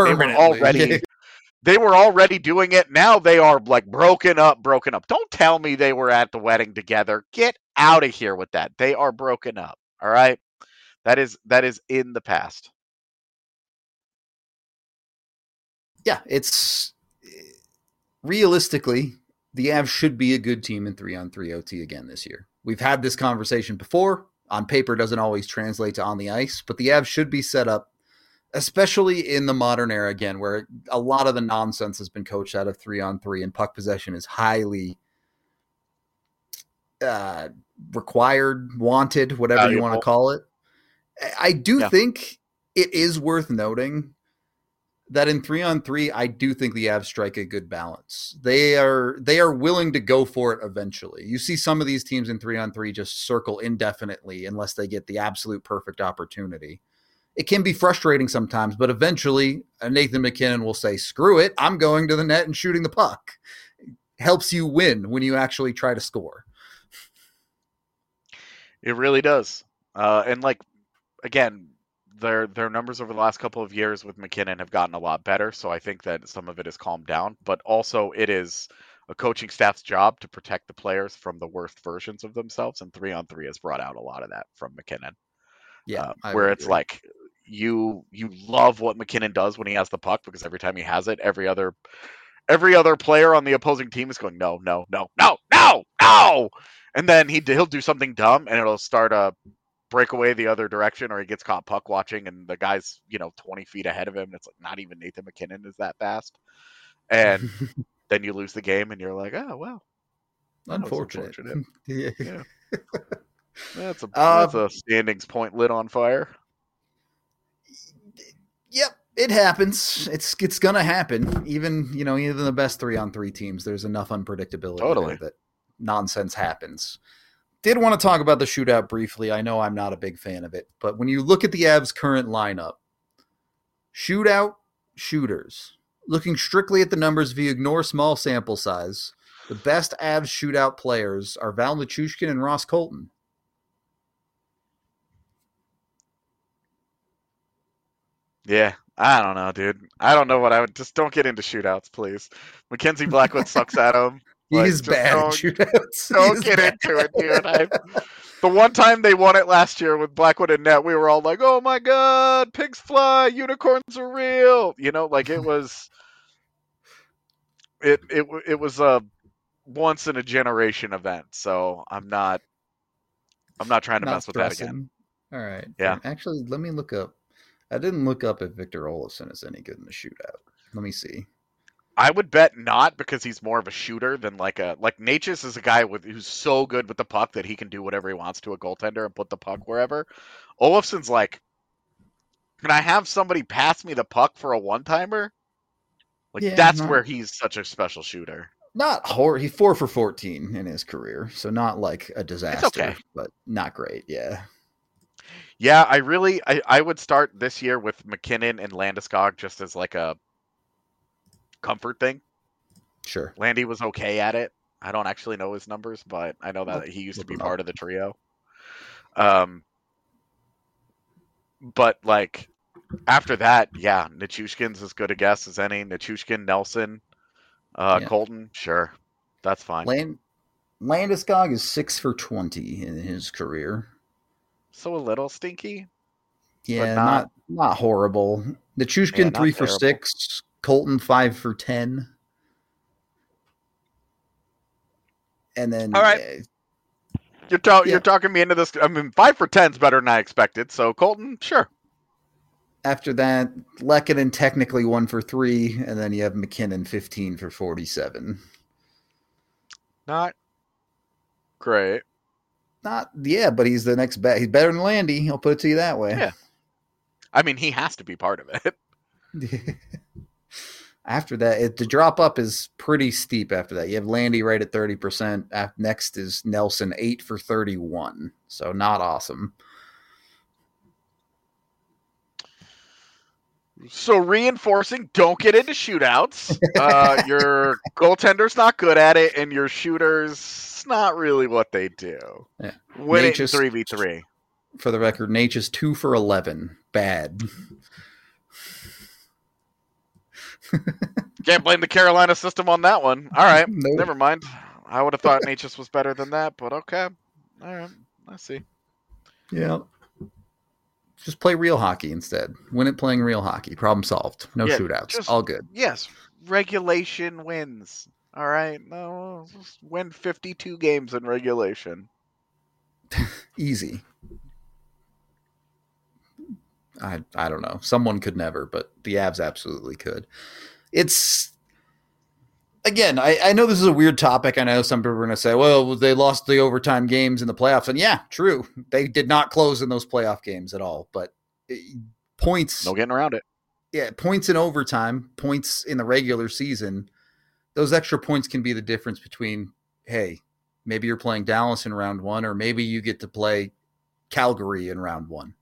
They were already doing it. Now they are like broken up. Don't tell me they were at the wedding together. Get out of here with that. They are broken up. All right. That is in the past. Yeah, it's realistically, the Avs should be a good team in 3-on-3 OT again this year. We've had this conversation before. On paper doesn't always translate to on the ice, but the Avs should be set up, especially in the modern era again, where a lot of the nonsense has been coached out of 3-on-3 and puck possession is highly required, wanted, whatever you want to call it. I do think it is worth noting that in 3-on-3, I do think the Avs strike a good balance. They are willing to go for it eventually. You see some of these teams in 3-on-3 just circle indefinitely unless they get the absolute perfect opportunity. It can be frustrating sometimes, but eventually Nathan MacKinnon will say, screw it, I'm going to the net and shooting the puck. It helps you win when you actually try to score. It really does. And like, again, their numbers over the last couple of years with MacKinnon have gotten a lot better, so I think that some of it has calmed down, but also it is a coaching staff's job to protect the players from the worst versions of themselves, and 3-on-3 has brought out a lot of that from MacKinnon. Yeah, where it's like you love what MacKinnon does when he has the puck, because every time he has it, every other player on the opposing team is going, no, and then he'll do something dumb and it'll start a breakaway the other direction, or he gets caught puck watching and the guy's 20 feet ahead of him, and it's like not even Nathan MacKinnon is that fast, and then you lose the game and you're like, oh well, unfortunate. Yeah. That's a standings point lit on fire. Yep, it happens. It's gonna happen. Even the best 3-on-3 teams, there's enough unpredictability there that nonsense happens. Did want to talk about the shootout briefly. I know I'm not a big fan of it, but when you look at the Avs' current lineup, shootout shooters, looking strictly at the numbers, if you ignore small sample size, the best Avs shootout players are Val Nichushkin and Ross Colton. Yeah, I don't know, dude. I don't know what I would. Just don't get into shootouts, please. Mackenzie Blackwood sucks at them. He's bad at shootouts. Don't get into it, dude. The one time they won it last year with Blackwood and Net, we were all like, "Oh my god, pigs fly, unicorns are real." You know, like it was. It was a once in a generation event. So I'm not trying to mess with that again. All right. Yeah. Actually, let me look up. I didn't look up if Victor Olofsson is any good in the shootout. Let me see. I would bet not, because he's more of a shooter than like Natchez is a guy who's so good with the puck that he can do whatever he wants to a goaltender and put the puck wherever. Olofsson's like, can I have somebody pass me the puck for a one-timer? Like that's where he's such a special shooter. Not horrible. He's 4 for 14 in his career, so not like a disaster, okay. But not great. Yeah. Yeah, I would start this year with McKinnon and Landeskog just as like a comfort thing. Sure. Landy was okay at it. I don't actually know his numbers, but I know that he used to be part of the trio. But like after that, yeah, Nichushkin's as good a guess as any. Nichushkin, Nelson, Colton, sure, that's fine. Landeskog is 6 for 20 in his career. So a little stinky. Yeah, not horrible. Nichushkin 3 for 6. Colton 5 for 10. And then all right, you're talking me into this. I mean, 5 for 10 is better than I expected. So Colton, sure. After that, Lehkonen technically 1 for 3, and then you have McKinnon 15 for 47. Not great. But he's the next bet. He's better than Landy. I'll put it to you that way. Yeah. I mean, he has to be part of it. After that, the drop up is pretty steep after that. You have Landy right at 30%. Next is Nelson, 8 for 31. So not awesome. So reinforcing, don't get into shootouts. Your goaltender's not good at it, and your shooter's not really what they do. Yeah. Win it 3v3. For the record, Natchez 2 for 11. Bad. Can't blame the Carolina system on that one. All right, Nope. Never mind. I would have thought Natchez was better than that, but okay. All right, I see. Yeah. Just play real hockey instead. Win it playing real hockey. Problem solved. No shootouts. All good. Yes, regulation wins. All right, no, just win 52 games in regulation. Easy. I don't know. Someone could never, but the Avs absolutely could. It's, again, I know this is a weird topic. I know some people are going to say, well, they lost the overtime games in the playoffs. And yeah, true. They did not close in those playoff games at all. But points. No getting around it. Yeah, points in overtime, points in the regular season. Those extra points can be the difference between, hey, maybe you're playing Dallas in round 1, or maybe you get to play Calgary in round 1.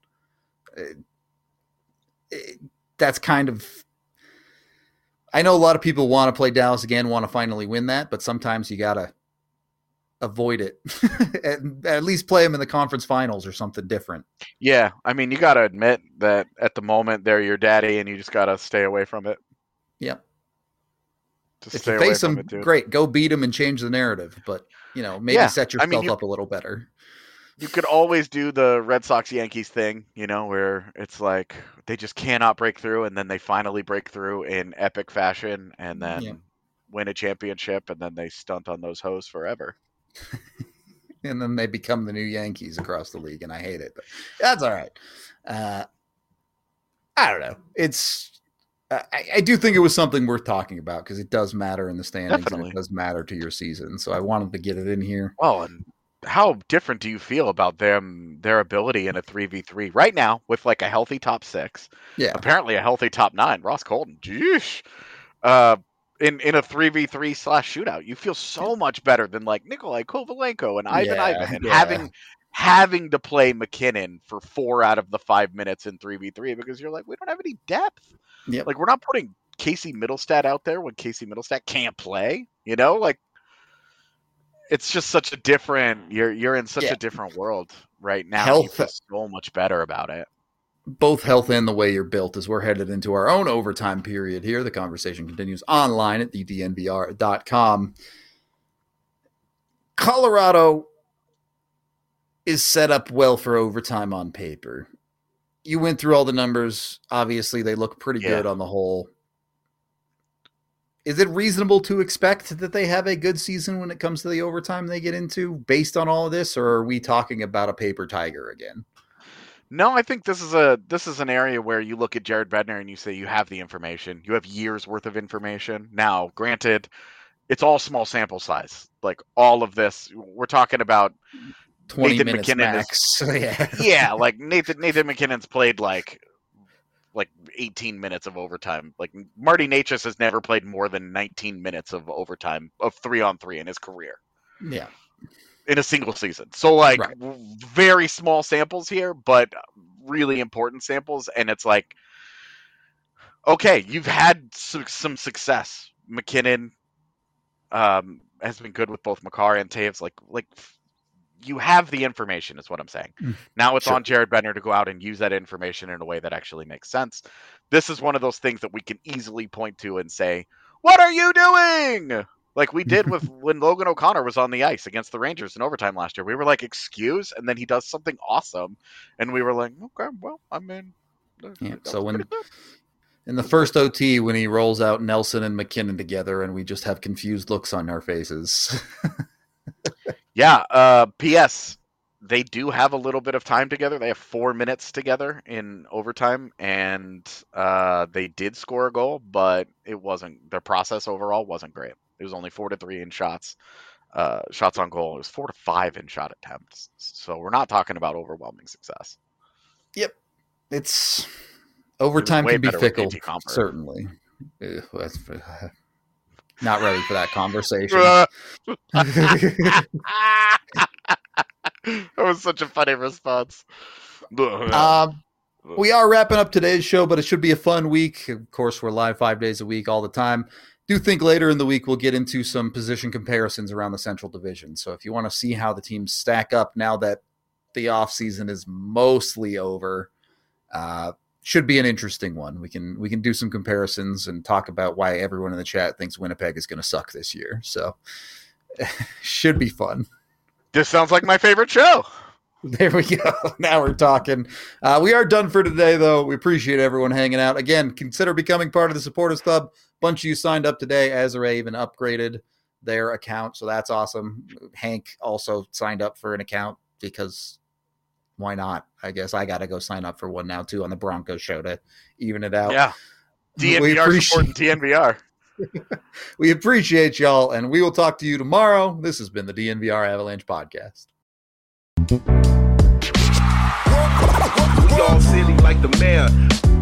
That's kind of, I know a lot of people want to play Dallas again, want to finally win that, but sometimes you got to avoid it. At least play them in the conference finals or something different. Yeah, I mean, you got to admit that at the moment they're your daddy, and you just got to stay away from it. Yep. Just if stay you away face from them, it, dude. great, go beat them and change the narrative. But, maybe set yourself up a little better. You could always do the Red Sox-Yankees thing, where it's like they just cannot break through, and then they finally break through in epic fashion, and then win a championship, and then they stunt on those hoes forever. And then they become the new Yankees across the league, and I hate it. But that's all right. I don't know. It's I do think it was something worth talking about because it does matter in the standings. Definitely. And it does matter to your season. So I wanted to get it in here. Well, and how different do you feel about their ability in a 3v3 right now with like a healthy top 6? Yeah. Apparently a healthy top 9. Ross Colton. Jeesh. In a 3v3 / shootout, you feel so much better than like Nikolai Kovalenko and Ivan and having to play McKinnon for 4 out of the 5 minutes in 3v3 because you're like, we don't have any depth. Yep. Like, we're not putting Casey Middlestat out there when Casey Middlestat can't play. Like, it's just such a different. You're in such a different world right now. Health, you feel so much better about it. Both health and the way you're built as we're headed into our own overtime period here. The conversation continues online at thednvr.com. Colorado is set up well for overtime on paper. You went through all the numbers. Obviously, they look pretty good on the whole. Is it reasonable to expect that they have a good season when it comes to the overtime they get into based on all of this, or are we talking about a paper tiger again? No, I think this is an area where you look at Jared Bednar and you say you have the information. You have years worth of information. Now, granted, it's all small sample size. Like all of this, we're talking about 20 Nathan minutes McKinnon max. yeah, like Nathan McKinnon's played like 18 minutes of overtime. Like Marty Necas has never played more than 19 minutes of overtime of 3-on-3 in his career. Yeah. In a single season. So like very small samples here, but really important samples. And it's like, okay, you've had some success. McKinnon has been good with both Makar and Taves. Like you have the information is what I'm saying. Now it's on Jared Bednar to go out and use that information in a way that actually makes sense. This is one of those things that we can easily point to and say, what are you doing? Like we did with when Logan O'Connor was on the ice against the Rangers in overtime last year. We were like, excuse? And then he does something awesome. And we were like, okay, well, I mean. So when in the first OT, when he rolls out Nelson and McKinnon together and we just have confused looks on our faces. Yeah. P.S. They do have a little bit of time together. They have 4 minutes together in overtime, and they did score a goal, but it wasn't. Their process overall wasn't great. It was only 4-3 in shots on goal. It was 4-5 in shot attempts. So we're not talking about overwhelming success. Yep, it's overtime can be fickle. Certainly. Not ready for that conversation. That was such a funny response. We are wrapping up today's show, but it should be a fun week. Of course, we're live 5 days a week all the time. Do think later in the week we'll get into some position comparisons around the Central Division. So if you want to see how the teams stack up now that the offseason is mostly over, should be an interesting one. We can do some comparisons and talk about why everyone in the chat thinks Winnipeg is going to suck this year. So should be fun. This sounds like my favorite show. There we go. Now we're talking. We are done for today, though. We appreciate everyone hanging out. Again, consider becoming part of the Supporters Club. A bunch of you signed up today. Ezra even upgraded their account, so that's awesome. Hank also signed up for an account because why not? I guess I got to go sign up for one now, too, on the Broncos show to even it out. Yeah. DNVR supporting DNVR. We appreciate y'all, and we will talk to you tomorrow. This has been the DNVR Avalanche Podcast. We all silly like the mayor.